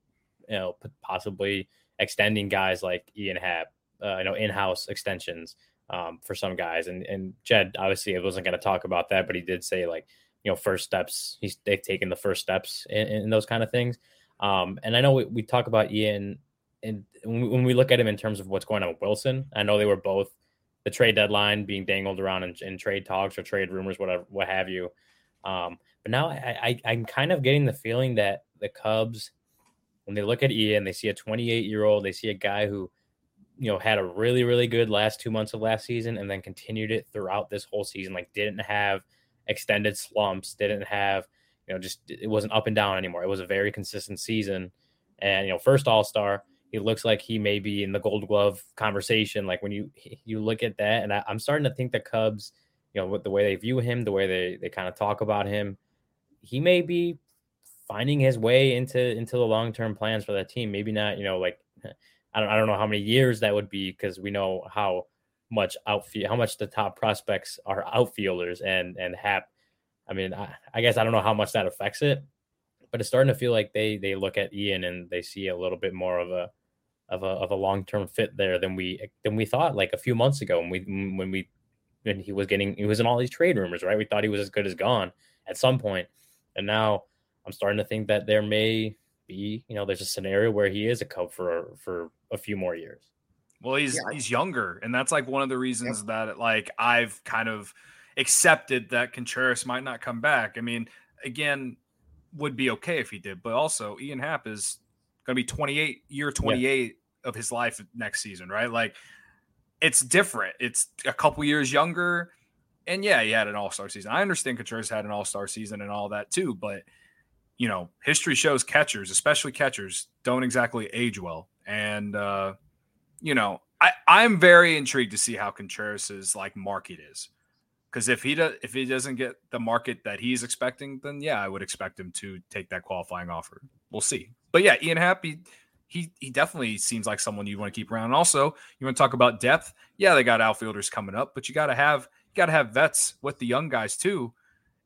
S3: you know, possibly extending guys like Ian Happ, uh, you know, in-house extensions um, for some guys. And and Jed obviously wasn't going to talk about that, but he did say like, you know, first steps. He's they've taken the first steps in, in those kind of things. Um, and I know we, we talk about Ian, and when we look at him in terms of what's going on with Wilson, I know they were both the trade deadline being dangled around in, in trade talks or trade rumors, whatever, what have you. Um, but now I, I, I'm kind of getting the feeling that the Cubs, when they look at Ian, they see a twenty-eight year old, they see a guy who, you know, had a really, really good last two months of last season and then continued it throughout this whole season. Like didn't have extended slumps, didn't have, you know, just, it wasn't up and down anymore. It was a very consistent season. And, you know, first all-star, he looks like he may be in the Gold Glove conversation. Like when you, you look at that, and I, I'm starting to think the Cubs, you know, with the way they view him, the way they, they kind of talk about him, he may be finding his way into, into the long-term plans for that team. Maybe not, you know, like, I don't, I don't know how many years that would be, because we know how much outfield, how much the top prospects are outfielders, and, and Happ. I mean, I, I guess I don't know how much that affects it, but it's starting to feel like they, they look at Ian and they see a little bit more of a, of a, of a long-term fit there than we, than we thought like a few months ago when we, when we, when he was getting, he was in all these trade rumors, right? We thought he was as good as gone at some point. And now I'm starting to think that there may be, you know, there's a scenario where he is a Cub for, for a few more years.
S2: Well, he's, yeah. he's younger. And that's like one of the reasons yep. that like I've kind of accepted that Contreras might not come back. I mean, again, would be okay if he did, but also Ian Happ is going to be twenty-eight, year twenty-eight yeah. of his life next season, right? Like it's different. It's a couple years younger. And yeah, he had an all-star season. I understand Contreras had an all-star season and all that too, but you know, history shows catchers, especially catchers, don't exactly age well. And, uh, you know, I, I'm very intrigued to see how Contreras's like market is. Because if he does, if he doesn't get the market that he's expecting, then yeah, I would expect him to take that qualifying offer. We'll see. But yeah, Ian Happ, he, he, he definitely seems like someone you want to keep around. And also, you want to talk about depth? Yeah, they got outfielders coming up, but you got to have you got to have vets with the young guys too.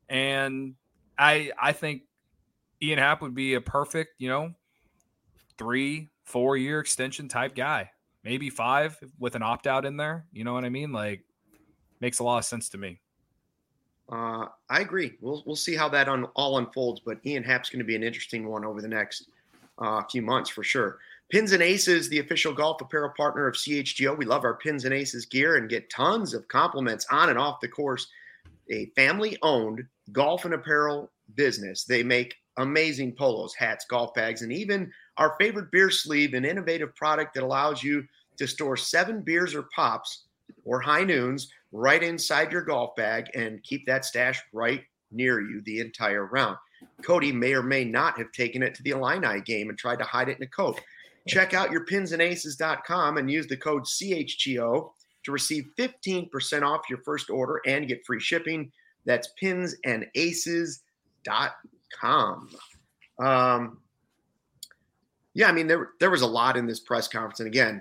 S2: And I I think Ian Happ would be a perfect, you know, three, four year extension type guy, maybe five with an opt out in there. You know what I mean? Like. Makes a lot of sense to me.
S1: Uh, I agree. We'll we'll see how that un, all unfolds, but Ian Happ's going to be an interesting one over the next uh, few months for sure. Pins and Aces, the official golf apparel partner of C H G O. We love our Pins and Aces gear and get tons of compliments on and off the course. A family-owned golf and apparel business. They make amazing polos, hats, golf bags, and even our favorite beer sleeve, an innovative product that allows you to store seven beers or pops or high noons right inside your golf bag and keep that stash right near you the entire round. Cody may or may not have taken it to the Illini game and tried to hide it in a coat. Check out your pins and aces dot com and use the code C H G O to receive fifteen percent off your first order and get free shipping. That's pins and aces dot com. Um, yeah, I mean, there, there was a lot in this press conference. And again,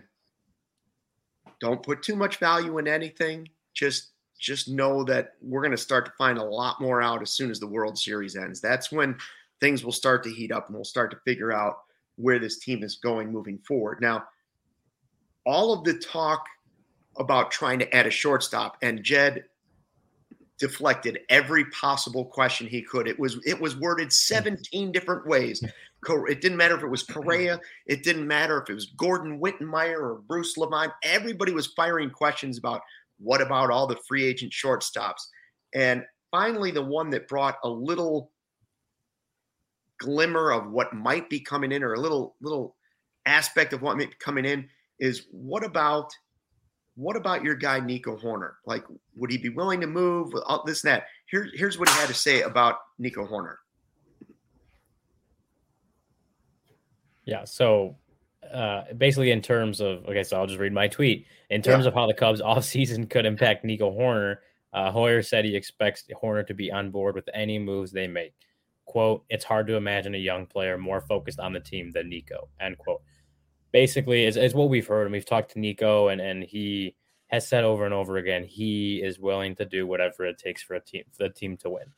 S1: don't put too much value in anything. Just just know that we're going to start to find a lot more out as soon as the World Series ends. That's when things will start to heat up and we'll start to figure out where this team is going moving forward. Now, all of the talk about trying to add a shortstop, and Jed deflected every possible question he could. It was it was worded seventeen different ways. It didn't matter if it was Correa. It didn't matter if it was Gordon Wittenmeyer or Bruce Lavine. Everybody was firing questions about what about all the free agent shortstops? And finally, the one that brought a little glimmer of what might be coming in, or a little little aspect of what might be coming in, is what about what about your guy Nico Hoerner? Like, would he be willing to move? All this and that. Here, here's what he had to say about Nico Hoerner.
S3: Yeah, so uh, basically in terms of, okay, so I'll just read my tweet. In terms yeah. of how the Cubs offseason could impact Nico Hoerner, uh, Hoyer said he expects Hoerner to be on board with any moves they make. Quote, it's hard to imagine a young player more focused on the team than Nico, end quote. Basically, it's, it's what we've heard, and we've talked to Nico, and, and he has said over and over again, he is willing to do whatever it takes for a team, for the team to win.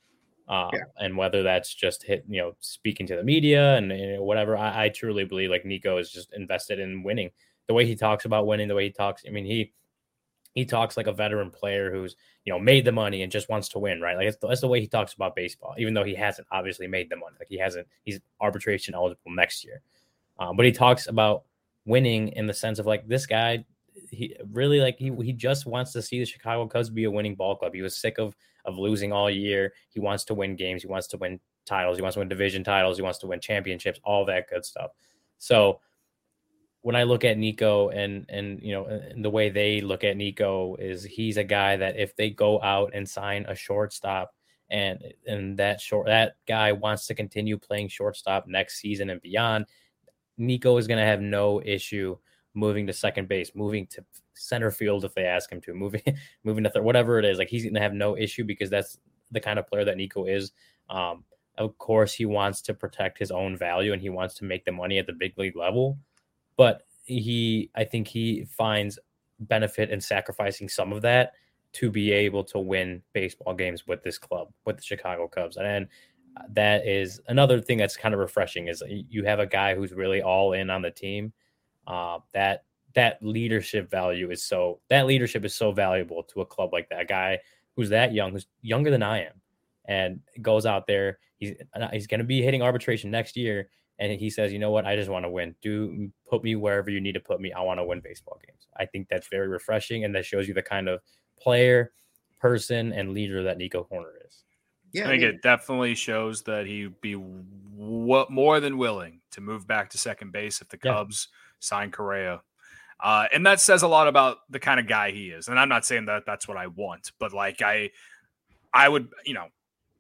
S3: Um,
S1: Yeah.
S3: And whether that's just hit, you know, speaking to the media and you know, whatever, I, I truly believe like Nico is just invested in winning. The way he talks about winning, the way he talks, I mean, he he talks like a veteran player who's, you know, made the money and just wants to win, right? Like that's the, that's the way he talks about baseball, even though he hasn't obviously made the money. Like he hasn't, he's arbitration eligible next year. Um, but he talks about winning in the sense of like this guy, he really like he he just wants to see the Chicago Cubs be a winning ball club. He was sick of of losing all year. He wants to win games. He wants to win titles. He wants to win division titles. He wants to win championships, all that good stuff. So when I look at Nico and, and, you know, and the way they look at Nico is he's a guy that if they go out and sign a shortstop and, and that short, that guy wants to continue playing shortstop next season and beyond, Nico is going to have no issue moving to second base, moving to center field if they ask him to, moving moving to third, whatever it is. Like he's going to have no issue because that's the kind of player that Nico is. Um, of course, he wants to protect his own value and he wants to make the money at the big league level. But he, I think he finds benefit in sacrificing some of that to be able to win baseball games with this club, with the Chicago Cubs. And that is another thing that's kind of refreshing is you have a guy who's really all in on the team. Uh, that that leadership value is so that leadership is so valuable to a club like that. A guy who's that young, who's younger than I am, and goes out there. He's he's going to be hitting arbitration next year, and he says, "You know what? I just want to win. Do put me wherever you need to put me. I want to win baseball games." I think that's very refreshing, and that shows you the kind of player, person, and leader that Nico Hoerner is.
S2: Yeah, I think I mean, it definitely shows that he'd be w- more than willing to move back to second base if the Cubs. Yeah. Sign Correa. Uh, and that says a lot about the kind of guy he is. And I'm not saying that that's what I want, but like I, I would, you know,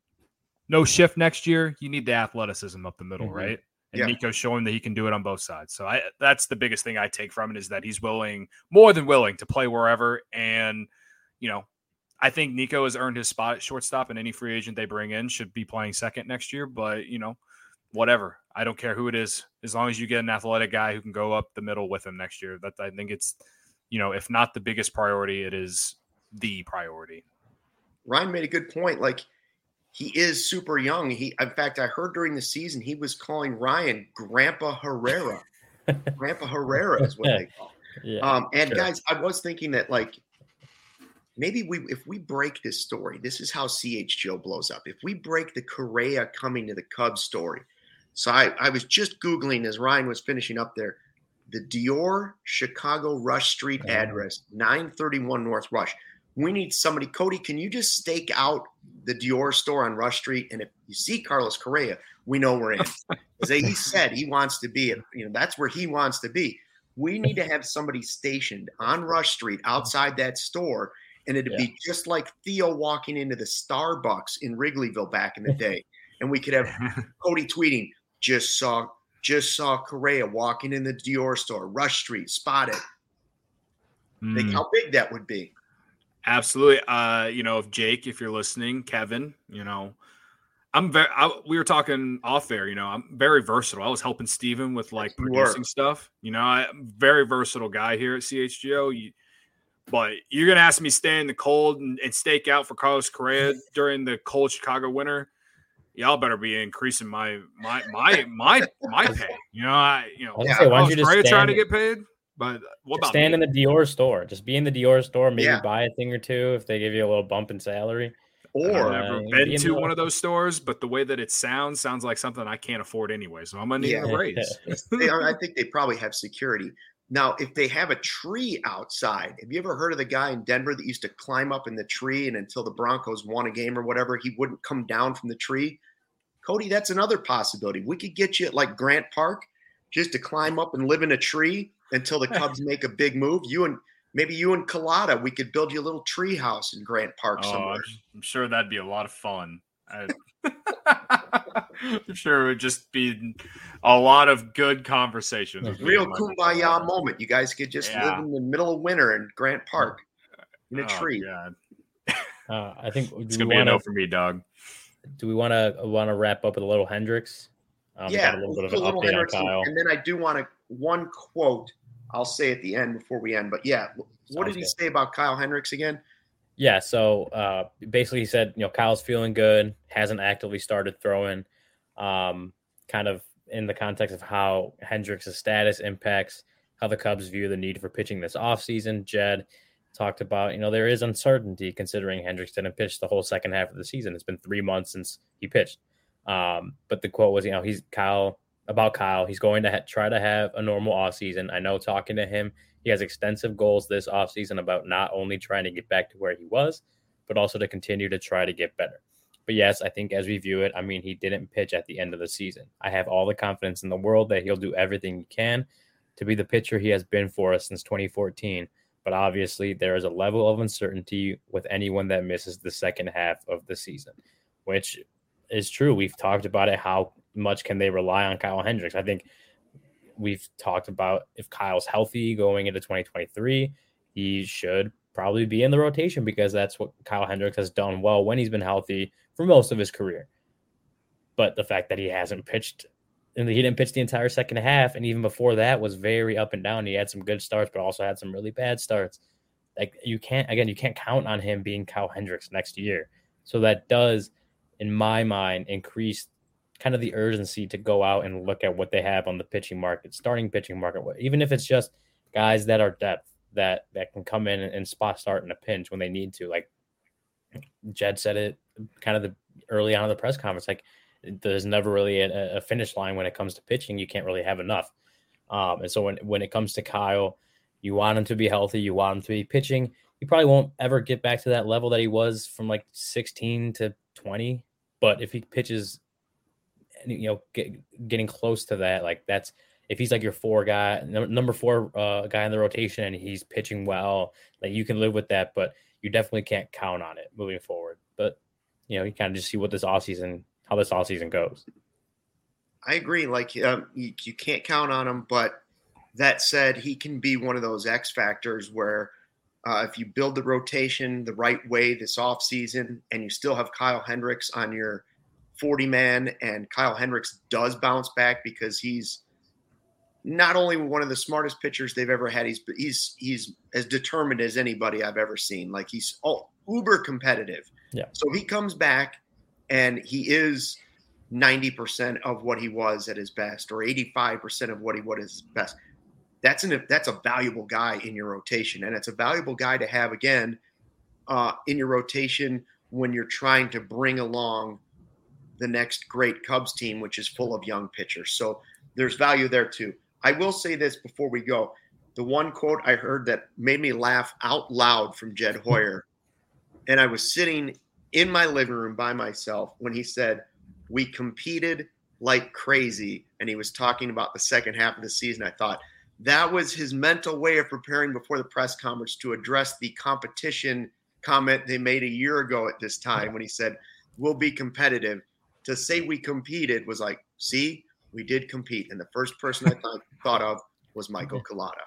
S2: no shift next year. You need the athleticism up the middle, mm-hmm. right? And yeah. Nico's showing that he can do it on both sides. So I, that's the biggest thing I take from it is that he's willing, more than willing to play wherever. And, you know, I think Nico has earned his spot at shortstop and any free agent they bring in should be playing second next year. But, you know, whatever. I don't care who it is, as long as you get an athletic guy who can go up the middle with him next year. That I think it's, you know, if not the biggest priority, it is the priority.
S1: Ryan made a good point. Like he is super young. He, in fact, I heard during the season he was calling Ryan Grandpa Herrera. Grandpa Herrera is what they call. Yeah, um, and sure. guys, I was thinking that like maybe we, if we break this story, this is how C H G O blows up. If we break the Correa coming to the Cubs story. So I, I was just Googling as Ryan was finishing up there, the Dior Chicago Rush Street address, nine thirty-one North Rush. We need somebody. Cody, can you just stake out the Dior store on Rush Street? And if you see Carlos Correa, we know we're in. As he said, he wants to be, you know, that's where he wants to be. We need to have somebody stationed on Rush Street outside that store. And it'd yeah. be just like Theo walking into the Starbucks in Wrigleyville back in the day. And we could have Cody tweeting, just saw just saw Correa walking in the Dior store, Rush Street, spotted. Mm. Think how big that would be.
S2: Absolutely. Uh, you know, if Jake, if you're listening, Kevin, you know, I'm very, I, we were talking off air, you know, I'm very versatile. I was helping Steven with like you producing were. stuff. You know, I, I'm a very versatile guy here at C H G O. You, but you're going to ask me stay in the cold and, and stake out for Carlos Correa during the cold Chicago winter. Y'all better be increasing my my my my my pay. You know, I you know,
S3: yeah, I was
S2: Correa trying to get paid. But what about
S3: stand
S2: me?
S3: in the Dior store? Just be in the Dior store, maybe
S1: yeah.
S3: buy a thing or two if they give you a little bump in salary.
S2: Or I've never uh, been to one of those stores, but the way that it sounds sounds like something I can't afford anyway. So I'm gonna need yeah. a raise.
S1: they are, I think they probably have security. Now, if they have a tree outside, have you ever heard of the guy in Denver that used to climb up in the tree and until the Broncos won a game or whatever, he wouldn't come down from the tree? Cody, that's another possibility. We could get you at like Grant Park just to climb up and live in a tree until the Cubs make a big move. You and maybe you and Collada, we could build you a little tree house in Grant Park
S2: oh,
S1: somewhere.
S2: I'm sure that'd be a lot of fun. I, I'm sure it would just be a lot of good conversations.
S1: Real kumbaya moment. You guys could just yeah. live in the middle of winter in Grant Park in a
S2: oh,
S1: tree.
S2: God.
S3: Uh, I think
S2: it's gonna be wanna, a no for me, dog.
S3: Do we want to want to wrap up with a little Hendricks? Um,
S1: yeah,
S3: a little bit of an update
S1: Hendricks,
S3: on Kyle.
S1: And then I do want to one quote I'll say at the end before we end. But yeah, what Sounds did he good. say about Kyle Hendricks again?
S3: Yeah, so uh, basically he said, you know, Kyle's feeling good, hasn't actively started throwing, um, kind of in the context of how Hendricks' status impacts how the Cubs view the need for pitching this offseason. Jed talked about, you know, there is uncertainty considering Hendricks didn't pitch the whole second half of the season. It's been three months since he pitched. Um, but the quote was, you know, he's Kyle about Kyle. He's going to ha- try to have a normal offseason. I know talking to him, he has extensive goals this offseason about not only trying to get back to where he was, but also to continue to try to get better. But yes, I think as we view it, I mean, he didn't pitch at the end of the season. I have all the confidence in the world that he'll do everything he can to be the pitcher he has been for us since twenty fourteen. But obviously, there is a level of uncertainty with anyone that misses the second half of the season, which is true. We've talked about it. How much can they rely on Kyle Hendricks? I think we've talked about if Kyle's healthy going into twenty twenty-three, he should probably be in the rotation because that's what Kyle Hendricks has done well when he's been healthy for most of his career. But the fact that he hasn't pitched and he didn't pitch the entire second half, and even before that was very up and down. He had some good starts, but also had some really bad starts. Like you can't, again, you can't count on him being Kyle Hendricks next year. So that does, in my mind, increase kind of the urgency to go out and look at what they have on the pitching market, starting pitching market, even if it's just guys that are depth that, that can come in and spot start in a pinch when they need to. Like Jed said it kind of the early on in the press conference, like, there's never really a, a finish line when it comes to pitching. You can't really have enough. Um, and so when, when it comes to Kyle, you want him to be healthy. You want him to be pitching. He probably won't ever get back to that level that he was from like sixteen to twenty. But if he pitches, you know, get, getting close to that, like that's, if he's like your four guy, number four uh, guy in the rotation, and he's pitching well, like you can live with that, but you definitely can't count on it moving forward. But, you know, you kind of just see what this offseason how this all season goes.
S1: I agree. Like um, you, you can't count on him, but that said, he can be one of those X factors where uh, if you build the rotation the right way this offseason and you still have Kyle Hendricks on your forty man, and Kyle Hendricks does bounce back because he's not only one of the smartest pitchers they've ever had, he's he's he's as determined as anybody I've ever seen. Like he's oh, uber competitive.
S3: Yeah.
S1: So he comes back and he is ninety percent of what he was at his best, or eighty-five percent of what he was at his best. That's an that's a valuable guy in your rotation, and it's a valuable guy to have again uh, in your rotation when you're trying to bring along the next great Cubs team, which is full of young pitchers. So there's value there too. I will say this before we go: the one quote I heard that made me laugh out loud from Jed Hoyer, and I was sitting in my living room by myself when he said, "We competed like crazy." And he was talking about the second half of the season. I thought that was his mental way of preparing before the press conference to address the competition comment they made a year ago at this time when he said, "We'll be competitive." To say we competed was like, see, we did compete. And the first person I thought, thought of was Michael Collada.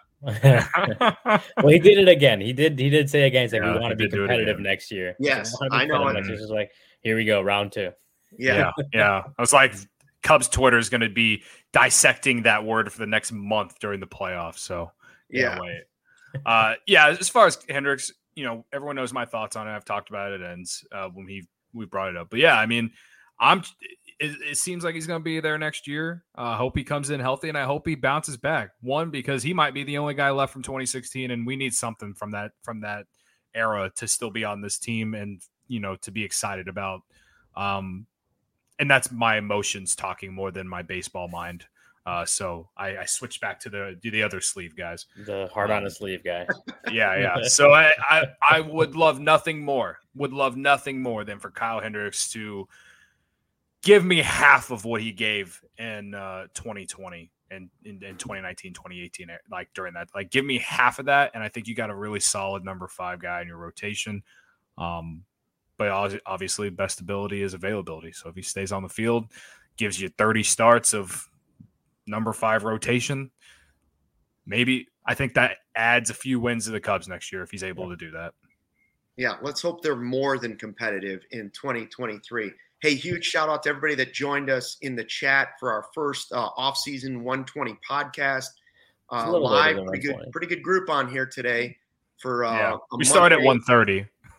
S3: Well, he did it again. He did. He did say again, he's like,
S2: Yeah,
S3: we want to
S2: he
S3: be
S2: did do it
S3: competitive
S2: again.
S3: next year.
S1: Yes,
S3: So
S1: I know.
S3: It's just like, here we go, round two.
S1: Yeah.
S2: yeah, yeah. I was like, Cubs Twitter is going to be dissecting that word for the next month during the playoffs. So
S1: Yeah.
S2: wait. Uh, yeah. As far as Hendricks, you know, everyone knows my thoughts on it. I've talked about it ends uh, when he we brought it up. But yeah, I mean, I'm. It, it seems like he's going to be there next year. I uh, hope he comes in healthy, and I hope he bounces back. One, because he might be the only guy left from twenty sixteen, and we need something from that from that era to still be on this team and, you know, to be excited about. Um, and that's my emotions talking more than my baseball mind. Uh, so I, I switch back to the do the other sleeve guys,
S3: the heart on the sleeve guy.
S2: Yeah, yeah. So I, I I would love nothing more. Would love nothing more than for Kyle Hendricks to give me half of what he gave in uh, twenty twenty and in, in twenty nineteen, twenty eighteen, like during that. Like, give me half of that, and I think you got a really solid number five guy in your rotation. Um, but obviously, best ability is availability. So if he stays on the field, gives you thirty starts of number five rotation, maybe I think that adds a few wins to the Cubs next year if he's able to do that.
S1: Yeah, let's hope they're more than competitive in twenty twenty-three. Hey, huge shout out to everybody that joined us in the chat for our first uh, off-season one twenty podcast. Uh, live, pretty good, pretty good group on here today. For uh,
S2: yeah.
S1: a
S2: we start at
S1: Monday.
S2: one thirty.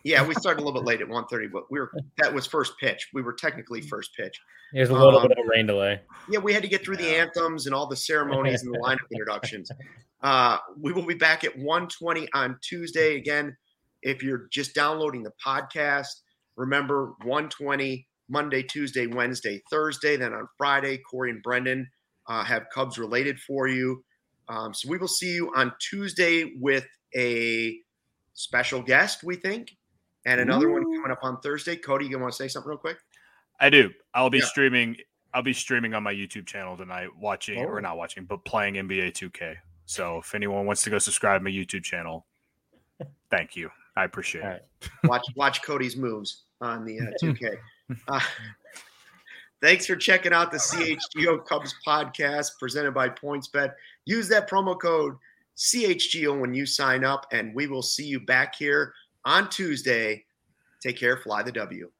S1: Yeah, we started a little bit late at one thirty, but we were that was first pitch. We were technically first pitch.
S3: There's a little
S1: Um,
S3: bit of rain delay.
S1: Yeah, we had to get through the anthems and all the ceremonies and the lineup introductions. Uh, we will be back at one twenty on Tuesday. Again, if you're just downloading the podcast, remember one twenty Monday, Tuesday, Wednesday, Thursday. Then on Friday, Corey and Brendan uh, have Cubs related for you. Um, so we will see you on Tuesday with a special guest, we think, and another Ooh. one coming up on Thursday. Cody, you want to say something real quick?
S2: I do. I'll be
S1: yeah.
S2: streaming. I'll be streaming on my YouTube channel tonight, watching oh. or not watching, but playing N B A two K. So if anyone wants to go subscribe to my YouTube channel, thank you. I appreciate
S3: right.
S2: it.
S1: Watch watch Cody's moves on the uh, two K. Uh, thanks for checking out the C H G O Cubs podcast presented by PointsBet. Use that promo code C H G O when you sign up, and we will see you back here on Tuesday. Take care. Fly the W.